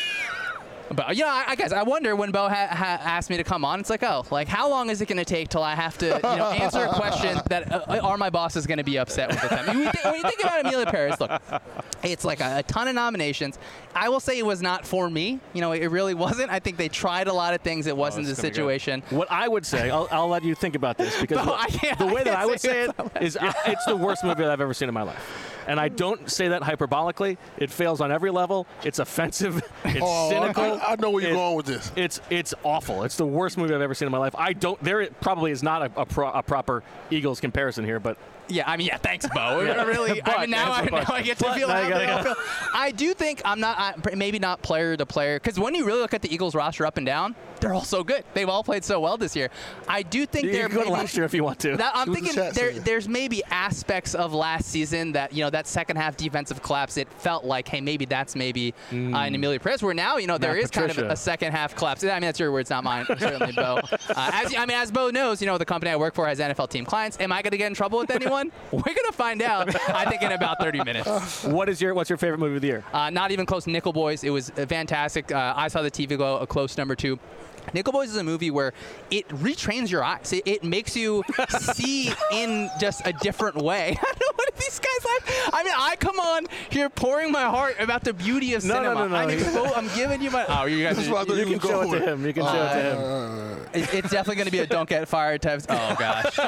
But I guess I wonder when Bo asked me to come on. It's like, how long is it going to take till I have to, answer a question that are my bosses going to be upset with them? When you think about Amelia Perez, look, it's like a ton of nominations. I will say it was not for me. It really wasn't. I think they tried a lot of things. It wasn't the situation. What I would say, I'll let you think about this, because the way that I would say it is it's the worst movie that I've ever seen in my life. And I don't say that hyperbolically. It fails on every level. It's offensive. It's cynical. I know where you're going with this. It's awful. It's the worst movie I've ever seen in my life. There probably is not a proper Eagles comparison here, but. Thanks, Bo. Really, now I get to feel how I do think maybe not player to player, because when you really look at the Eagles roster up and down, they're all so good. They've all played so well this year. I do think you can go to last year if you want to. I'm thinking there's maybe aspects of last season that that second half defensive collapse. It felt like, hey, maybe that's in Amelia Perez, where now there is kind of a second half collapse. That's your words, not mine. Certainly, Bo. As Bo knows, the company I work for has NFL team clients. Am I going to get in trouble with anyone? We're going to find out, I think, in about 30 minutes. What's your favorite movie of the year? Not even close. Nickel Boys. It was fantastic. I saw the TV go a close number 2. Nickel Boys is a movie where it retrains your eyes. It makes you see in just a different way. I don't know what these guys like. I come on here pouring my heart about the beauty of cinema. No. I'm giving you my. Oh, you guys. You can show it to him. You can show it to him. It's definitely going to be a don't get fired type. Oh gosh.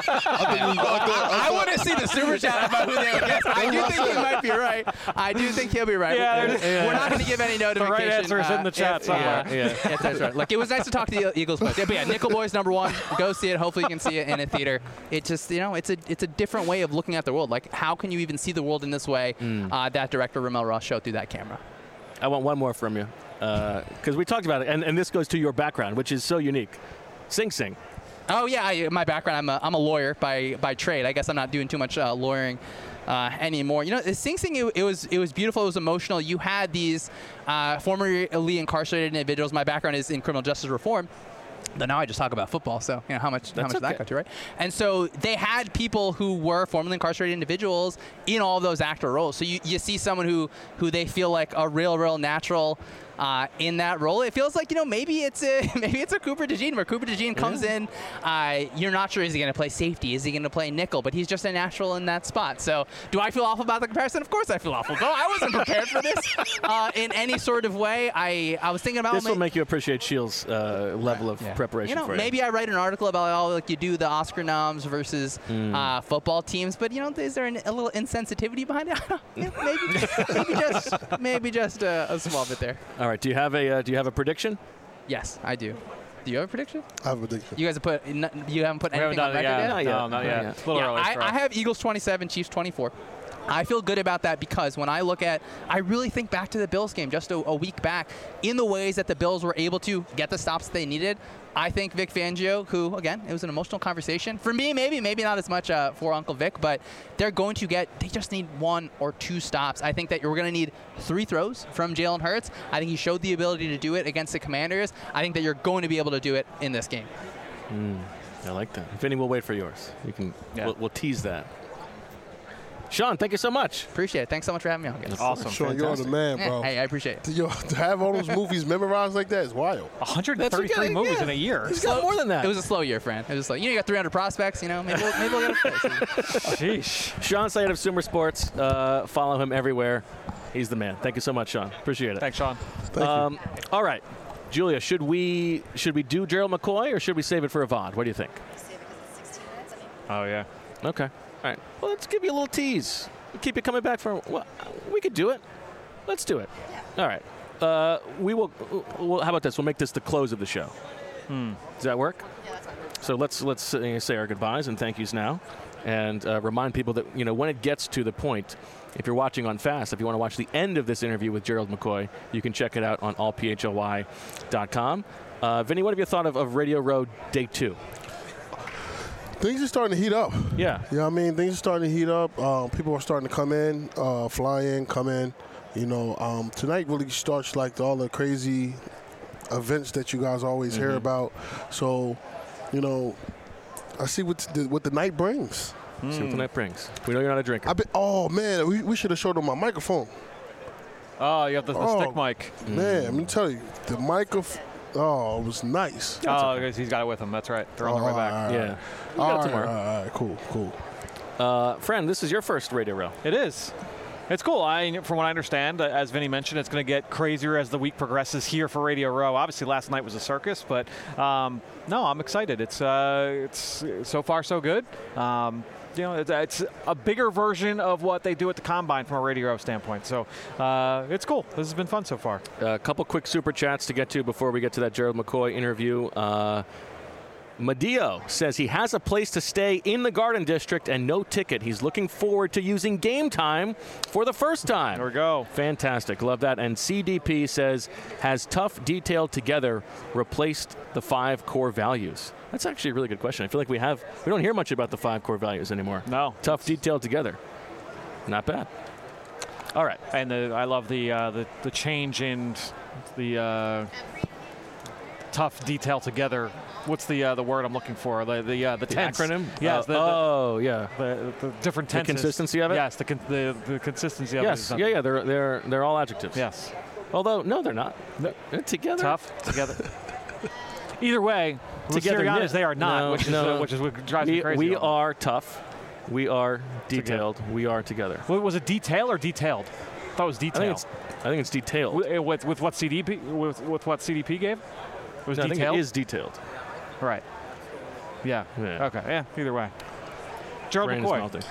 I want to see the super chat about who they would guess. I do think he might be right. I do think he'll be right. We're not going to give any notification. The right answer is in the chat somewhere. Yeah, that's right. Look, it was nice to talk to the Eagles players. But Nickel Boys #1. Go see it. Hopefully you can see it in a theater. It just, it's a different way of looking at the world. Like, how can you even see the world in this way? That director Ramel Ross showed through that camera. I want one more from you, because we talked about it, and this goes to your background, which is so unique. Sing Sing. Oh yeah, my background. I'm a lawyer by trade. I guess I'm not doing too much lawyering anymore. Sing Sing, it was beautiful. It was emotional. You had these formerly incarcerated individuals. My background is in criminal justice reform. But now I just talk about football, so how much did that go to, right? And so they had people who were formerly incarcerated individuals in all of those actor roles. So you see someone who they feel like a real natural in that role. It feels like maybe it's a Cooper DeJean, where Cooper DeJean comes in. You're not sure, is he going to play safety? Is he going to play nickel? But he's just a natural in that spot. So do I feel awful about the comparison? Of course I feel awful. I wasn't prepared for this in any sort of way. I was thinking about this will make you appreciate Shield's level of preparation for you. Maybe I wite an article about you do the Oscar noms versus football teams, but is there a little insensitivity behind it? maybe just a small bit there. All right. Do you have a prediction? Yes, I do. Do you have a prediction? I have a prediction. You guys have you haven't put anything on record yet? No, not yet. It's a little early. I have Eagles 27, Chiefs 24. I feel good about that because when I look at, I really think back to the Bills game just a week back, in the ways that the Bills were able to get the stops they needed. I think Vic Fangio, who, again, it was an emotional conversation. For me, maybe not as much for Uncle Vic, but they just need 1 or 2 stops. I think that you're going to need 3 throws from Jalen Hurts. I think he showed the ability to do it against the Commanders. I think that you're going to be able to do it in this game. I like that. Vinny, we'll wait for yours. You can. Yeah. We'll tease that. Sean, thank you so much. Appreciate it. Thanks so much for having me on. That's awesome. Sean, you're the man, bro. Hey, I appreciate it. To have all those movies memorized like that is wild. 133 movies in a year. He's got more than that. It was a slow year, Fran. It was slow. You got 300 prospects. Maybe we'll get a place. Sheesh. Sean Sayed of Sumer Sports. Follow him everywhere. He's the man. Thank you so much, Sean. Appreciate it. Thanks, Sean. Thank you. All right, Julia, should we do Gerald McCoy or should we save it for Avant? What do you think? Save it because it's 16 minutes. Oh yeah. Okay. All right. Well, let's give you a little tease. Keep you coming back for. Well, we could do it. Let's do it. Yeah. All right. We will. How about this? We'll make this the close of the show. Does that work? Yeah, that's fine. So let's say our goodbyes and thank yous now, and remind people that when it gets to the point, if you're watching on Fast, if you want to watch the end of this interview with Gerald McCoy, you can check it out on allphly.com. Vinny, what have you thought of Radio Row Day 2? Things are starting to heat up. Yeah. You know what I mean? Things are starting to heat up. People are starting to come in, fly in, come in. Tonight really starts like all the crazy events that you guys always hear about. So, I see what the night brings. See what the night brings. We know you're not a drinker. Oh, man, we should have showed them my microphone. Oh, you have the stick mic. Man, let me tell you, the microphone. Oh, it was nice. Oh, because he's got it with him. That's right. They're on their way back. Yeah. All right, cool. Friend, this is your first Radio Row. It is. It's cool. From what I understand, as Vinny mentioned, it's going to get crazier as the week progresses here for Radio Row. Obviously, last night was a circus, but no, I'm excited. It's so far so good. It's a bigger version of what they do at the Combine from a Radio Row standpoint. So it's cool. This has been fun so far. A couple quick super chats to get to before we get to that Gerald McCoy interview. Madio says he has a place to stay in the Garden District and no ticket. He's looking forward to using Game Time for the first time. There we go. Fantastic. Love that. And CDP says, has Tough Detailed Together replaced the 5 core values? That's actually a really good question. I feel like we don't hear much about the 5 core values anymore. No. Tough Detailed Together. Not bad. All right. And I love the change in the Tough Detail Together. What's the word I'm looking for? The tense. Acronym? Yes. The different tenses. The consistency of it? Yes, the consistency of it. Yes. Yeah. They're all adjectives. Yes. Although, no, they're not. They're together. Tough, together. Either way, together, they are not, which is what drives me crazy. We are tough. We are detailed. Together. We are together. Was it detail or detailed? I thought it was detail. I think it's detailed. With what CDP gave? It was detailed? I think it is detailed. Right. Yeah. Okay. Yeah. Either way. Gerald McCoy.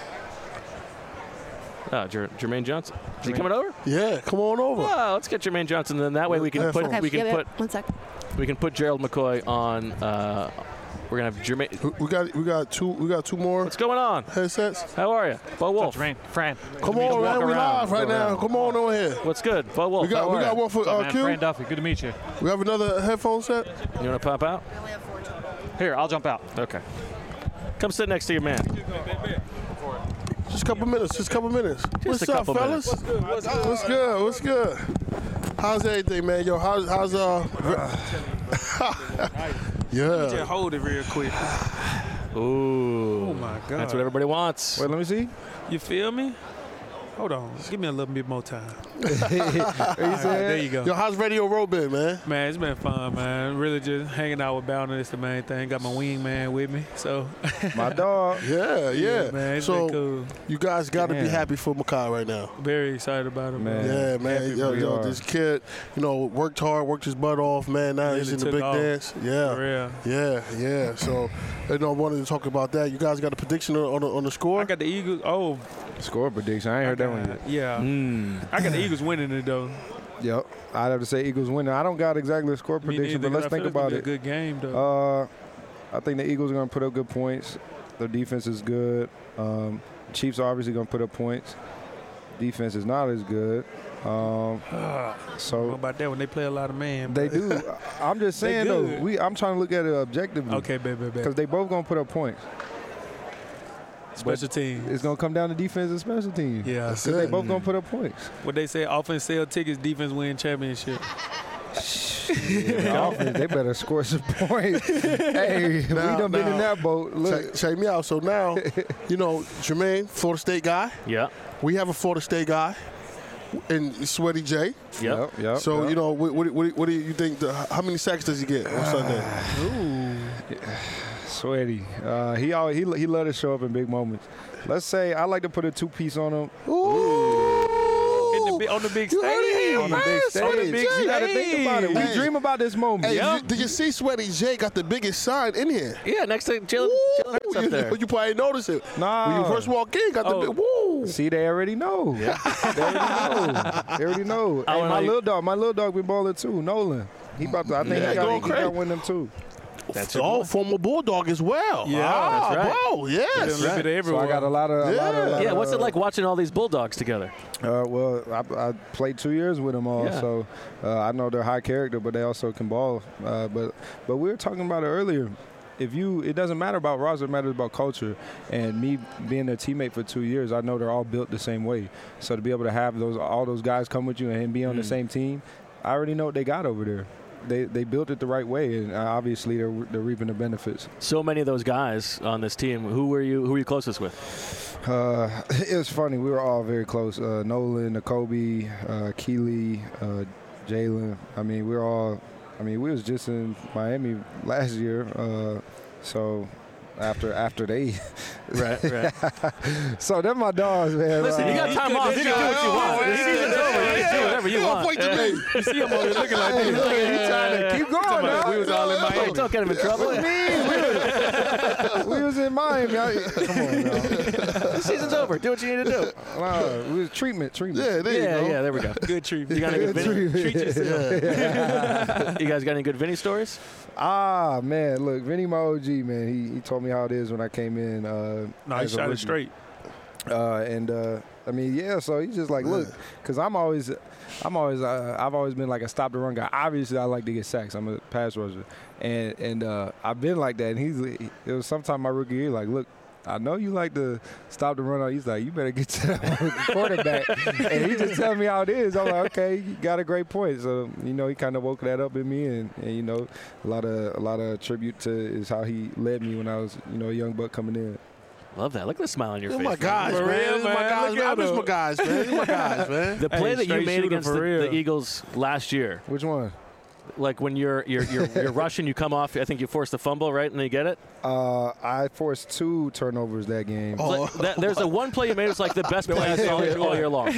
Jermaine Johnson. Is he coming over? Yeah, come on over. Well, let's get Jermaine Johnson. Then that way we can put. One sec. We can put Gerald McCoy on. We're gonna have Jermaine. We got two more. What's going on? Headsets. How are you, Bo Wolf? Jermaine, Fran. Come on, man. We live right now. Come on over here. What's good, Bo Wolf? We got one for Q. Fran Duffy. Good to meet you. We have another headphone set. You want to pop out? We only have 4 total. Here, I'll jump out. Okay. Come sit next to your man. Just a couple minutes. What's up, fellas? What's good? How's everything, man? Yo, how's yeah. Just hold it real quick. Ooh. Oh my God. That's what everybody wants. Wait, let me see. You feel me? Hold on. Give me a little bit more time. There you go. Yo, how's Radio Row been, man? Man, it's been fun, man. Really just hanging out with Bowden is the main thing. Got my wing man with me, so. My dog. Yeah. Man, it's so been cool. You guys got to be happy for Makai right now. Very excited about him, man. Yeah, man. Yo, this kid, worked hard, worked his butt off, man. Now he's in the big dance. Yeah. For real. Yeah. So, I wanted to talk about that. You guys got a prediction on the score? I got the Eagles. Oh. Score prediction. I ain't heard that one yet. Yeah. I got the Eagles winning it, though. Yep. I'd have to say Eagles winning. I don't got exactly a score prediction, but let's think about it. It's a good game, though. I think the Eagles are going to put up good points. Their defense is good. Chiefs are obviously going to put up points. Defense is not as good. So what about that when they play a lot of man? They do. I'm just saying though. I'm trying to look at it objectively. Okay, baby. Because they both gonna put up points. Special teams. It's gonna come down to defense and special teams. Yeah, because they both gonna put up points. What they say, offense sell tickets, defense win championship. Offense, they better score some points. Hey, we done been in that boat. Look, check me out. So now, Jermaine, Florida State guy. Yeah. We have a Florida State guy. And Sweaty J. Yep. So, what do you think? How many sacks does he get on Sunday? Sweaty. He let us show up in big moments. Let's say I like to put a 2-piece on him. On the big stage. On the big stage. You got to think about it. We dream about this moment. Hey, did you see Sweaty J got the biggest sign in here? Yeah, next to Jalen Hurts up there. You probably noticed it. Nah. When you first walk in, got the big woo. See, they already know. Yeah. They already know. Hey, my little dog been balling too, Nolan. He about to, I think he got one of them too. That's former Bulldog as well. Yeah, that's right. Bro, yes. So I got a lot of. Yeah, what's it like watching all these Bulldogs together? Well, I played 2 years with them all, so I know they're high character, but they also can ball. But we were talking about it earlier. It doesn't matter about roster, it matters about culture. And me being their teammate for 2 years, I know they're all built the same way. So to be able to have all those guys come with you and be on the same team, I already know what they got over there. They built it the right way, and obviously they're reaping the benefits. So many of those guys on this team. Who were you closest with? It was funny. We were all very close. Nolan, Nakobe, Keely, Jalen. We was just in Miami last year. So after they right. So they're my dogs, man. Listen, you got time off. You can do what you want. The season's over. You can do whatever you want. You see him over there looking like this. He's trying to keep going now. We was all in Miami. Don't get him in trouble. We was in Miami. Come on now. The season's over. Do what you need to do. We was treatment. Yeah, there you go. Yeah, there we go. Good treatment. You got any good Vinny? Treat yourself. You guys got any good Vinny stories? Man, look, Vinny, my OG, man. He told me how it is when I came in. He shot it straight. So he's just like, look, because I've always been like a stop the run guy. Obviously, I like to get sacks. I'm a pass rusher, and I've been like that. And it was sometime my rookie year, like, look, I know you like to stop the run. He's like, you better get to that quarterback. And he just telling me how it is. I'm like, okay, you got a great point. So, he kind of woke that up in me. And a lot of tribute to is how he led me when I was, a young buck coming in. Love that. Look at the smile on your face. My guys, man. I miss my guys, man. My guys, man. The play that you made against the Eagles last year. Which one? Like when you're rushing, you come off. I think you forced the fumble, right, and then you get it. I forced 2 turnovers that game. There's a one play you made. It's like the best play I saw all year long.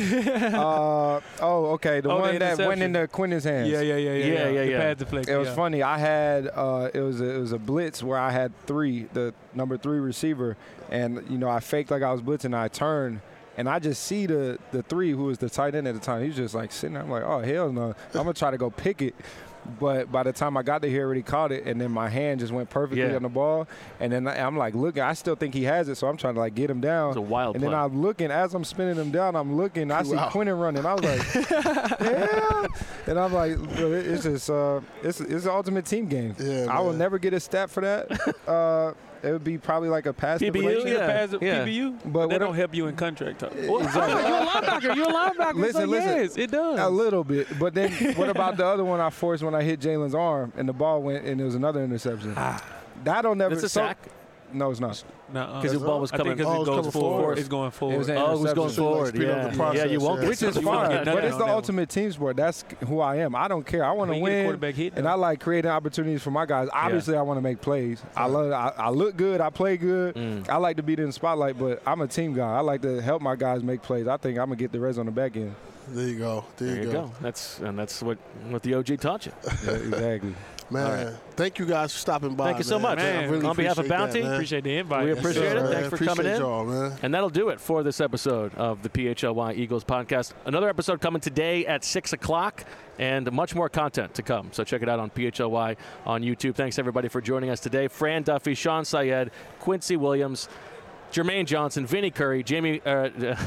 Okay, the one that went into Quinn's hands. Yeah. The pad deflect. It was funny. I had it was a blitz where I had the number 3 receiver, and I faked like I was blitzing. I turned. And I just see the 3 who was the tight end at the time. He was just like sitting there. I'm like, oh, hell no. I'm going to try to go pick it. But by the time I got there, he already caught it. And then my hand just went perfectly on the ball. And then I'm like, looking. I still think he has it. So I'm trying to like get him down. It's a wild play. And then I'm looking. As I'm spinning him down, I'm looking. I see Quinnen running. I was like, yeah. And I'm like, it's just it's an ultimate team game. Yeah, I will never get a stat for that. It would be probably like a pass PBU, deflection. PBU, but they don't help you in contract talk. Exactly. You're a linebacker. Listen, yes, it does. A little bit. But then what about the other one I forced when I hit Jalen's arm and the ball went and it was another interception? That'll never. It's a sack? No, it's not. Because the ball was coming. It goes forward. It's going forward. It was going forward. Yeah, you won't. Which is fine. But it's the ultimate team sport. That's who I am. I don't care. I want to win, and I like creating opportunities for my guys. Obviously, I want to make plays. I look good. I play good. I like to be in the spotlight, but I'm a team guy. I like to help my guys make plays. I think I'm gonna get the rest on the back end. There you go. There you go. That's what the OG taught you. Yeah, exactly. Man, thank you guys for stopping by. Thank you so much. Man. Really on behalf of Bounty, appreciate the invite. We appreciate it. Thanks for coming in. Y'all, man. And that'll do it for this episode of the PHLY Eagles podcast. Another episode coming today at 6 o'clock, and much more content to come. So check it out on PHLY on YouTube. Thanks, everybody, for joining us today. Fran Duffy, Sean Syed, Quincy Williams, Jermaine Johnson, Vinny Curry, Jamie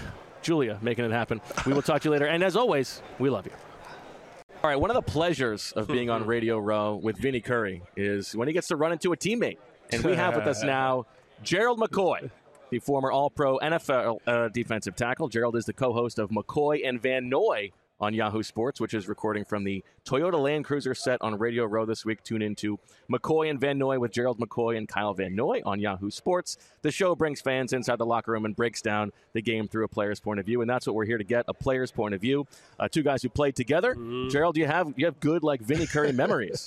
Julia making it happen. We will talk to you later. And as always, we love you. All right, one of the pleasures of being on Radio Row with Vinny Curry is when he gets to run into a teammate. And we have with us now Gerald McCoy, the former All-Pro NFL defensive tackle. Gerald is the co-host of McCoy and Van Noy on Yahoo Sports, which is recording from the Toyota Land Cruiser set on Radio Row this week. Tune into McCoy and Van Noy with Gerald McCoy and Kyle Van Noy on Yahoo Sports. The show brings fans inside the locker room and breaks down the game through a player's point of view, and that's what we're here to get, a player's point of view. Two guys who played together. Gerald, you have good, like, Vinny Curry memories.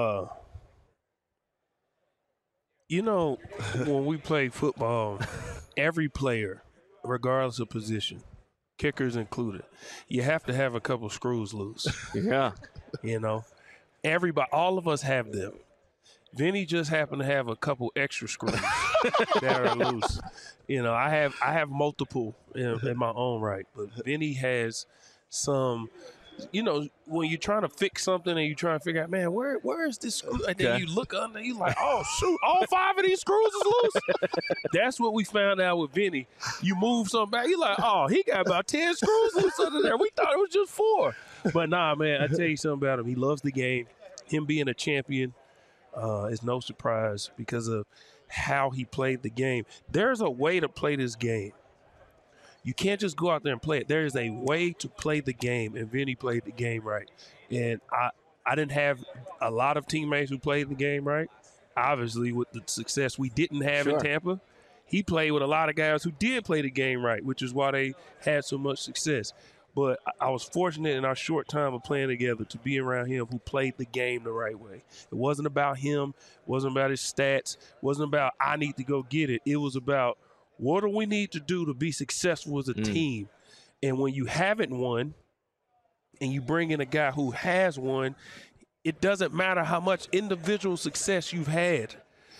You know, when we play football, every player, regardless of position, kickers included, you have to have a couple screws loose. Yeah. You know, everybody, all of us have them. Vinny just happened to have a couple extra screws that are loose. You know, I have multiple in my own right, but Vinny has some. You know, when you're trying to fix something and you're trying to figure out, man, where is this screw? And then you look under, you're like, oh, shoot, all 5 of these screws is loose? That's what we found out with Vinny. You move something back, you're like, oh, he got about 10 screws loose under there. We thought it was just 4. But nah, man, I tell you something about him. He loves the game. Him being a champion is no surprise because of how he played the game. There's a way to play this game. You can't just go out there and play it. There is a way to play the game, and Vinny played the game right. And I didn't have a lot of teammates who played the game right. Obviously, with the success we didn't have in Tampa, he played with a lot of guys who did play the game right, which is why they had so much success. But I was fortunate in our short time of playing together to be around him who played the game the right way. It wasn't about him. It wasn't about his stats. It wasn't about I need to go get it. It was about what do we need to do to be successful as a team? And when you haven't won and you bring in a guy who has won, it doesn't matter how much individual success you've had.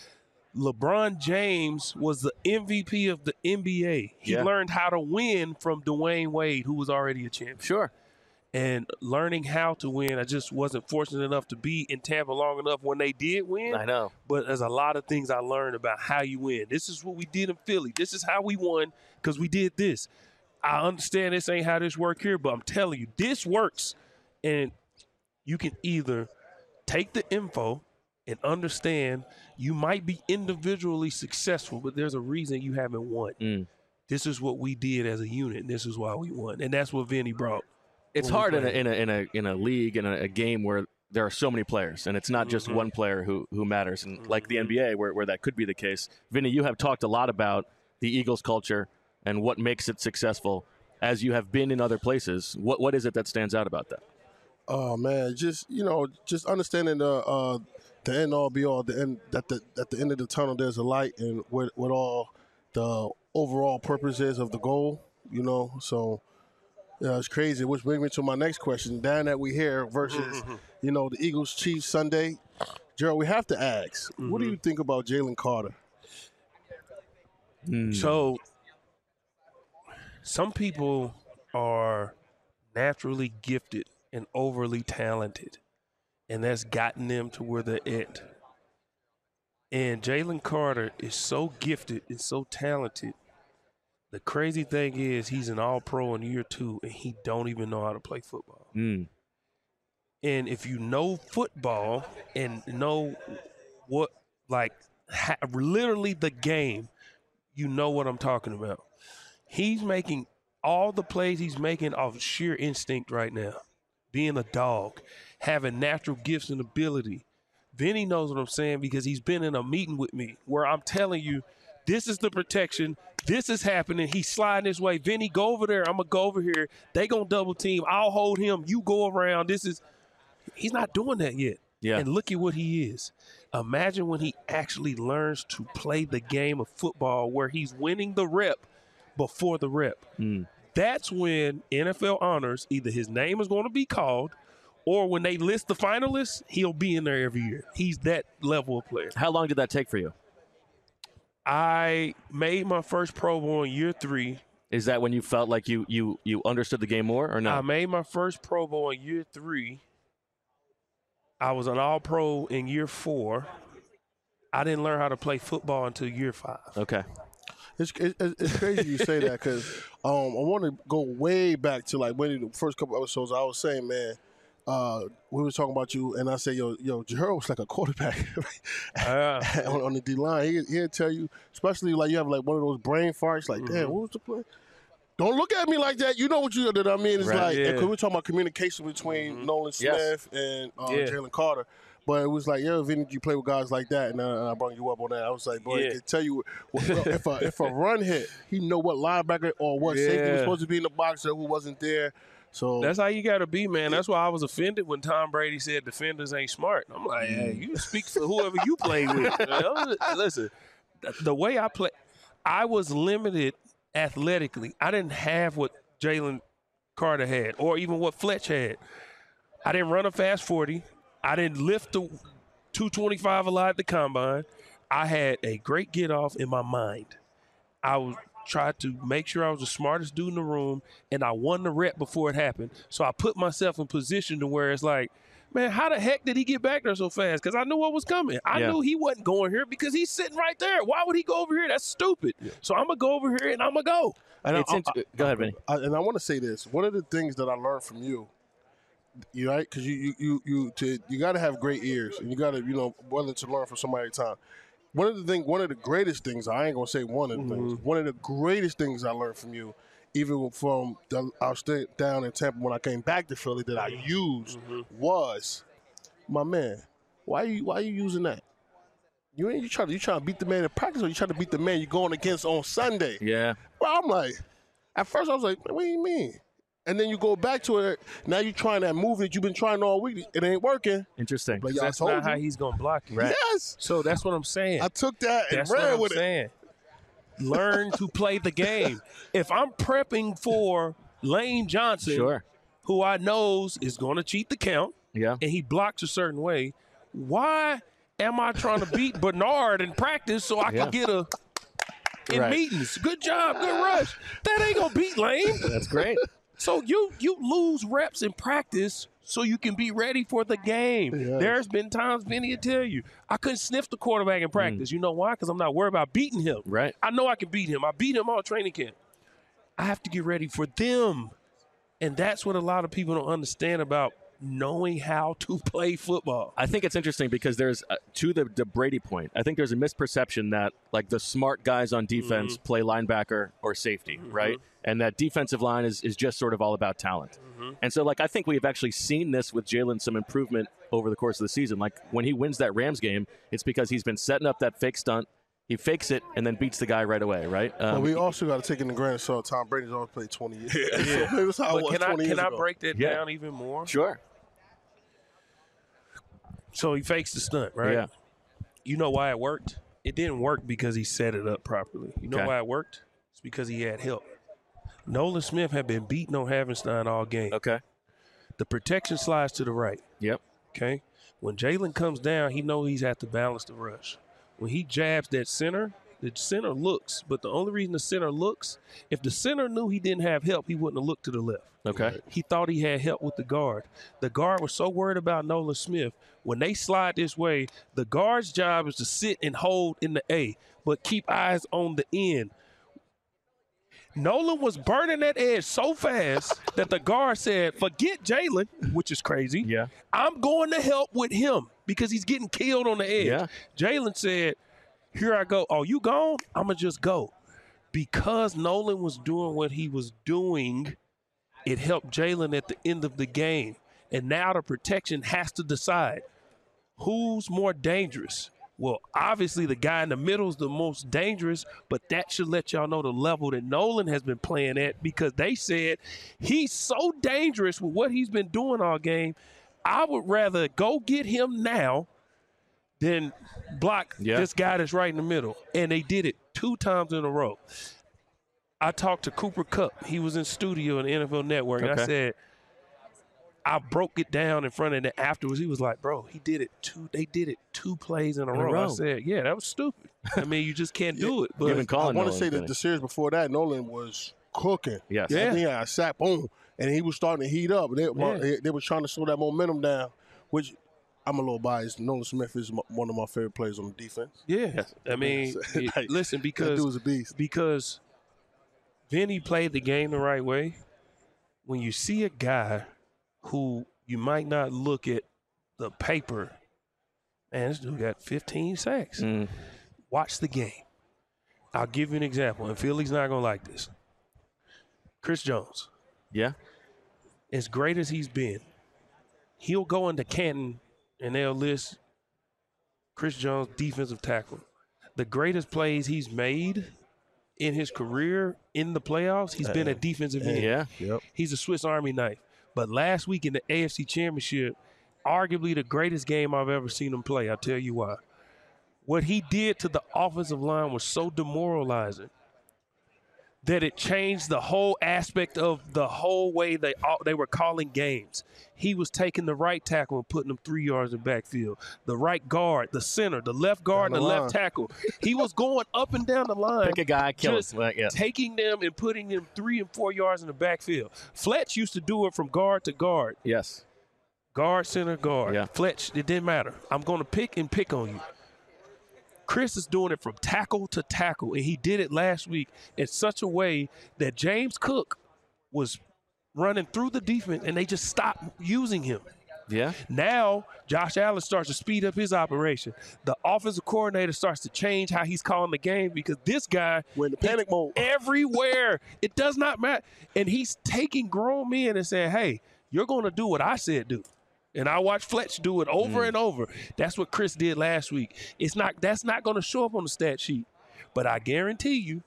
LeBron James was the MVP of the NBA. He learned how to win from Dwayne Wade, who was already a champion. Sure. And learning how to win, I just wasn't fortunate enough to be in Tampa long enough when they did win. I know. But there's a lot of things I learned about how you win. This is what we did in Philly. This is how we won because we did this. I understand this ain't how this work here, but I'm telling you, this works. And you can either take the info and understand you might be individually successful, but there's a reason you haven't won. This is what we did as a unit, and this is why we won. And that's what Vinny brought. It's hard in a league, in a game where there are so many players, and it's not just one player who matters. And like the NBA, where that could be the case. Vinny, you have talked a lot about the Eagles culture and what makes it successful. As you have been in other places, what is it that stands out about that? Oh man, just understanding the end all be all. The end at the end of the tunnel, there's a light, and what all the overall purpose is of the goal. You know, so. Yeah, it's crazy, which brings me to my next question. Down that we hear versus, the Eagles-Chiefs Sunday. Gerald, we have to ask, what do you think about Jalen Carter? So, some people are naturally gifted and overly talented, and that's gotten them to where they're at. And Jalen Carter is so gifted and so talented. The crazy thing is he's an all-pro in year 2, and he don't even know how to play football. And if you know football and know what, literally the game, you know what I'm talking about. He's making all the plays he's making off sheer instinct right now. Being a dog, having natural gifts and ability. Vinny knows what I'm saying because he's been in a meeting with me where I'm telling you, this is the protection. This is happening. He's sliding this way. Vinny, go over there. I'm going to go over here. They going to double team. I'll hold him. You go around. He's not doing that yet. Yeah. And look at what he is. Imagine when he actually learns to play the game of football where he's winning the rep before the rep. That's when NFL honors, either his name is going to be called or when they list the finalists, he'll be in there every year. He's that level of player. How long did that take for you? I made my first Pro Bowl in year 3. Is that when you felt like you understood the game more or no? I made my first Pro Bowl in year 3. I was an All-Pro in year 4. I didn't learn how to play football until year 5. Okay. It's crazy you say that because I want to go way back to like when the first couple episodes I was saying, man, we were talking about you, and I said, yo, Gerald was like a quarterback on the D-line. He'd tell you, especially like you have like one of those brain farts, like, damn, what was the play? Don't look at me like that. You know what you did. I mean, it's like, because we're talking about communication between Nolan Smith and Jalen Carter. But it was like, Vinny, you play with guys like that, and I brought you up on that. I was like, boy, I can tell you, if a run hit, he know what linebacker or what safety was supposed to be in the box or who wasn't there. So that's how you got to be, man. That's why I was offended when Tom Brady said defenders ain't smart. I'm like, hey, you speak for whoever you play with. Listen, the way I play, I was limited athletically. I didn't have what Jalen Carter had or even what Fletch had. I didn't run a fast 40. I didn't lift the 225 a lot at the combine. I had a great get off in my mind. I tried to make sure I was the smartest dude in the room, and I won the rep before it happened. So I put myself in position to where it's like, man, how the heck did he get back there so fast? Because I knew what was coming. I knew he wasn't going here because he's sitting right there. Why would he go over here? That's stupid. So I'm going to go over here and I'm going to go. And go ahead, Vinny. And I want to say this. One of the things that I learned from you, right? Because you got to have great ears, and you got to willing to learn from somebody at a time. One of the greatest things, I ain't gonna say one of the things. One of the greatest things I learned from you, even from I was down in Tampa when I came back to Philly, that I used was, my man, why are you using that? You trying to beat the man in practice, or you trying to beat the man you're going against on Sunday? Yeah. Well, I'm like, at first I was like, what do you mean? And then you go back to it. Now you're trying that move that you've been trying all week. It ain't working. Interesting. But that's not how he's going to block you. Right? Yes. So that's what I'm saying. I took that and ran with it. Learn to play the game. If I'm prepping for Lane Johnson, who I knows is going to cheat the count, and he blocks a certain way, why am I trying to beat Bernard in practice so I can get in meetings? Good job, good rush. That ain't going to beat Lane. That's great. So you lose reps in practice so you can be ready for the game. Yes. There's been times, Vinny will tell you, I couldn't sniff the quarterback in practice. You know why? Because I'm not worried about beating him. Right. I know I can beat him. I beat him all training camp. I have to get ready for them. And that's what a lot of people don't understand about knowing how to play football. I think it's interesting because there's, to the Brady point, I think there's a misperception that like the smart guys on defense play linebacker or safety, right? And that defensive line is just sort of all about talent. And so like I think we've actually seen this with Jalen, some improvement over the course of the season. Like when he wins that Rams game, it's because he's been setting up that fake stunt. He fakes it and then beats the guy right away, right? But we also got to take into granted, so Tom Brady's always played 20 years. So that's how it was 20 years ago. ago. Can I break that down even more? Sure. So he fakes the stunt, right? Yeah. You know why it worked? It didn't work because he set it up properly. You know why it worked? It's because he had help. Nolan Smith had been beating on Havenstein all game. Okay. The protection slides to the right. Yep. Okay. When Jalen comes down, he knows he's at to balance the rush. When he jabs that center, the center looks. But the only reason the center looks, if the center knew he didn't have help, he wouldn't have looked to the left. Okay. He thought he had help with the guard. The guard was so worried about Nolan Smith. When they slide this way, the guard's job is to sit and hold in the A, but keep eyes on the end. Nolan was burning that edge so fast that the guard said, forget Jalen, which is crazy. Yeah. I'm going to help with him because he's getting killed on the edge. Yeah. Jalen said, here I go. Oh, you gone? I'm going to just go. Because Nolan was doing what he was doing, it helped Jalen at the end of the game. And now the protection has to decide who's more dangerous. Well, obviously the guy in the middle is the most dangerous, but that should let y'all know the level that Nolan has been playing at because they said he's so dangerous with what he's been doing all game. I would rather go get him now than block this guy that's right in the middle. And they did it 2 times in a row. I talked to Cooper Kupp. He was in studio on the NFL Network, and I said, I broke it down in front of him afterwards. He was like, bro, they did it 2 plays in a row. I said, yeah, that was stupid. I mean, you just can't do it. But I want to say that the series before that, Nolan was cooking. Yes. I think he had a sack, boom, and he was starting to heat up. They were trying to slow that momentum down, which I'm a little biased. Nolan Smith is one of my favorite players on the defense. Yeah, I mean, listen, because that dude's a beast. Because Vinny played the game the right way. When you see a guy who you might not look at the paper, man, this dude got 15 sacks. Watch the game. I'll give you an example, and Philly's not going to like this. Chris Jones. Yeah. As great as he's been, he'll go into Canton, and they'll list Chris Jones, defensive tackle. The greatest plays he's made in his career in the playoffs, he's been a defensive end. Yeah. Yep. He's a Swiss Army knife. But last week in the AFC Championship, arguably the greatest game I've ever seen him play. I'll tell you why. What he did to the offensive line was so demoralizing that it changed the whole aspect of the whole way they were calling games. He was taking the right tackle and putting them 3 yards in the backfield. The right guard, the center, the left guard, and the left tackle. He was going up and down the line. Pick a guy, kill just him. Yeah. taking them and putting them 3 and 4 yards in the backfield. Fletch used to do it from guard to guard. Yes. Guard, center, guard. Yeah. Fletch, it didn't matter. I'm going to pick on you. Chris is doing it from tackle to tackle, and he did it last week in such a way that James Cook was running through the defense, and they just stopped using him. Yeah. Now, Josh Allen starts to speed up his operation. The offensive coordinator starts to change how he's calling the game because this guy in the panic mode everywhere. It does not matter. And he's taking grown men and saying, hey, you're going to do what I said do. And I watched Fletch do it over and over. That's what Chris did last week. That's not going to show up on the stat sheet. But I guarantee you,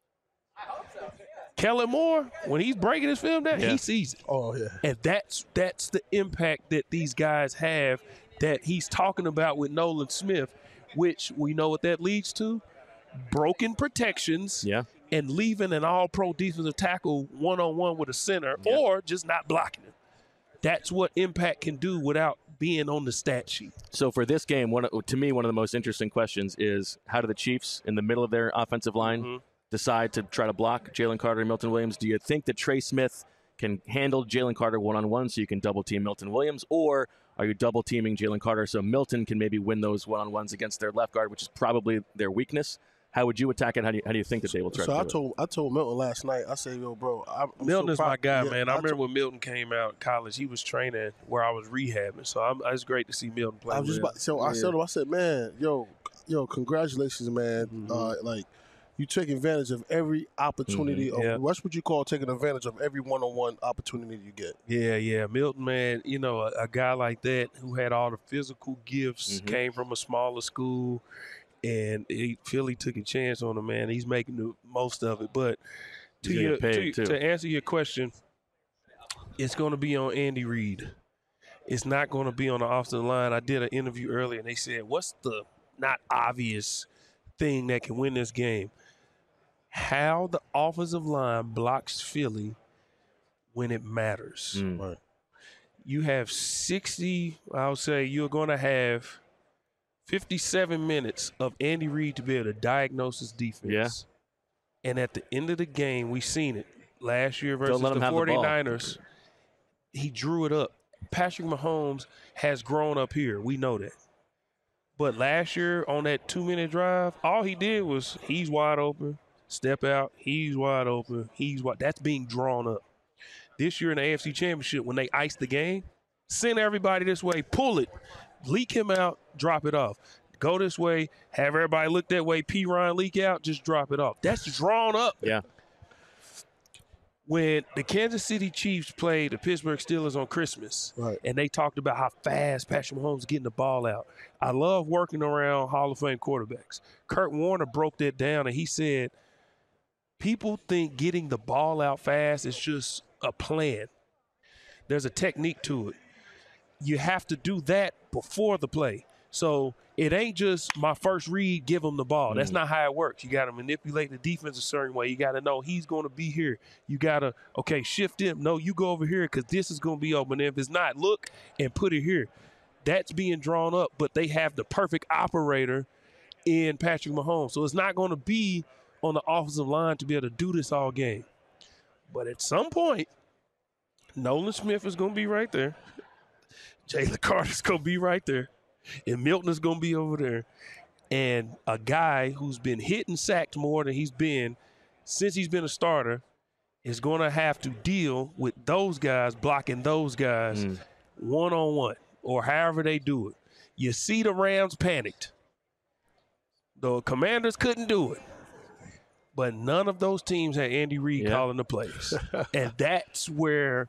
Kellen Moore, when he's breaking his film down, he sees it. Oh, yeah. And that's the impact that these guys have that he's talking about with Nolan Smith, which we know what that leads to. Broken protections and leaving an all-pro defensive tackle one-on-one with a center or just not blocking him. That's what impact can do without being on the stat sheet. So for this game, to me, one of the most interesting questions is how do the Chiefs, in the middle of their offensive line, decide to try to block Jalen Carter and Milton Williams? Do you think that Trey Smith can handle Jalen Carter one-on-one so you can double-team Milton Williams, or are you double-teaming Jalen Carter so Milton can maybe win those one-on-ones against their left guard, which is probably their weakness? How would you attack it? How do you think that they will try to do it? I told Milton last night, I said, yo, bro, Milton is my guy, man. I remember when Milton came out of college, he was training where I was rehabbing. So it's great to see Milton play. I said, man, yo, congratulations, man. Like, you take advantage of every opportunity. What's what you call taking advantage of every one-on-one opportunity you get. Yeah. Milton, man, a guy like that who had all the physical gifts, came from a smaller school, and Philly took a chance on him, man. He's making the most of it. But to answer your question, it's going to be on Andy Reid. It's not going to be on the offensive line. I did an interview earlier, and they said, what's the not obvious thing that can win this game? How the offensive line blocks Philly when it matters. Right. You have 60, I'll say you're going to have 57 minutes of Andy Reid to be able to diagnose his defense. Yeah. And at the end of the game, we've seen it. Last year versus the 49ers, he drew it up. Patrick Mahomes has grown up here. We know that. But last year on that 2-minute drive, all he did was he's wide open, step out, he's wide open, that's being drawn up. This year in the AFC Championship, when they ice the game, send everybody this way, pull it, leak him out, drop it off. Go this way, have everybody look that way, P. Ryan leak out, just drop it off. That's drawn up. Yeah. When the Kansas City Chiefs played the Pittsburgh Steelers on Christmas, and they talked about how fast Patrick Mahomes is getting the ball out. I love working around Hall of Fame quarterbacks. Kurt Warner broke that down, and he said, people think getting the ball out fast is just a plan. There's a technique to it. You have to do that before the play. So it ain't just my first read, give him the ball. That's not how it works. You got to manipulate the defense a certain way. You got to know he's going to be here. You got to, shift him. No, you go over here because this is going to be open. If it's not, look and put it here. That's being drawn up, but they have the perfect operator in Patrick Mahomes. So it's not going to be on the offensive line to be able to do this all game. But at some point, Nolan Smith is going to be right there. Jalen Carter's going to be right there, and Milton is going to be over there. And a guy who's been hit and sacked more than he's been since he's been a starter is going to have to deal with those guys blocking those guys one-on-one or however they do it. You see the Rams panicked. The Commanders couldn't do it. But none of those teams had Andy Reid calling the plays. And that's where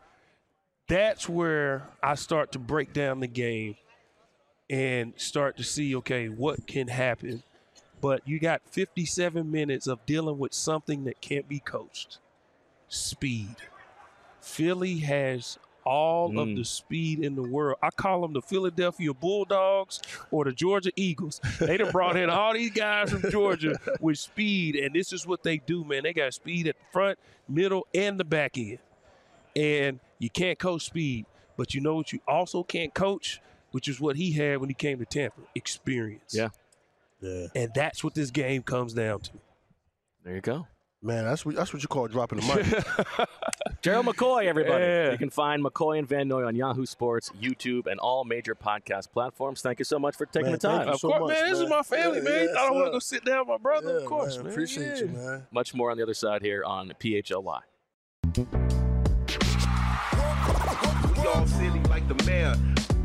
I start to break down the game and start to see, okay, what can happen. But you got 57 minutes of dealing with something that can't be coached. Speed. Philly has all of the speed in the world. I call them the Philadelphia Bulldogs or the Georgia Eagles. They done brought in all these guys from Georgia with speed, and this is what they do, man. They got speed at the front, middle, and the back end. And you can't coach speed, but you know what you also can't coach, which is what he had when he came to Tampa, experience. Yeah. And that's what this game comes down to. There you go. Man, that's what you call dropping the mic. Gerald McCoy, everybody. Yeah. You can find McCoy and Van Noy on Yahoo Sports, YouTube, and all major podcast platforms. Thank you so much for taking the time. Of course, man. This is my family, man. I don't want to go sit down with my brother. Of course, man. Appreciate you, man. Much more on the other side here on PHLY. We all silly like the mayor.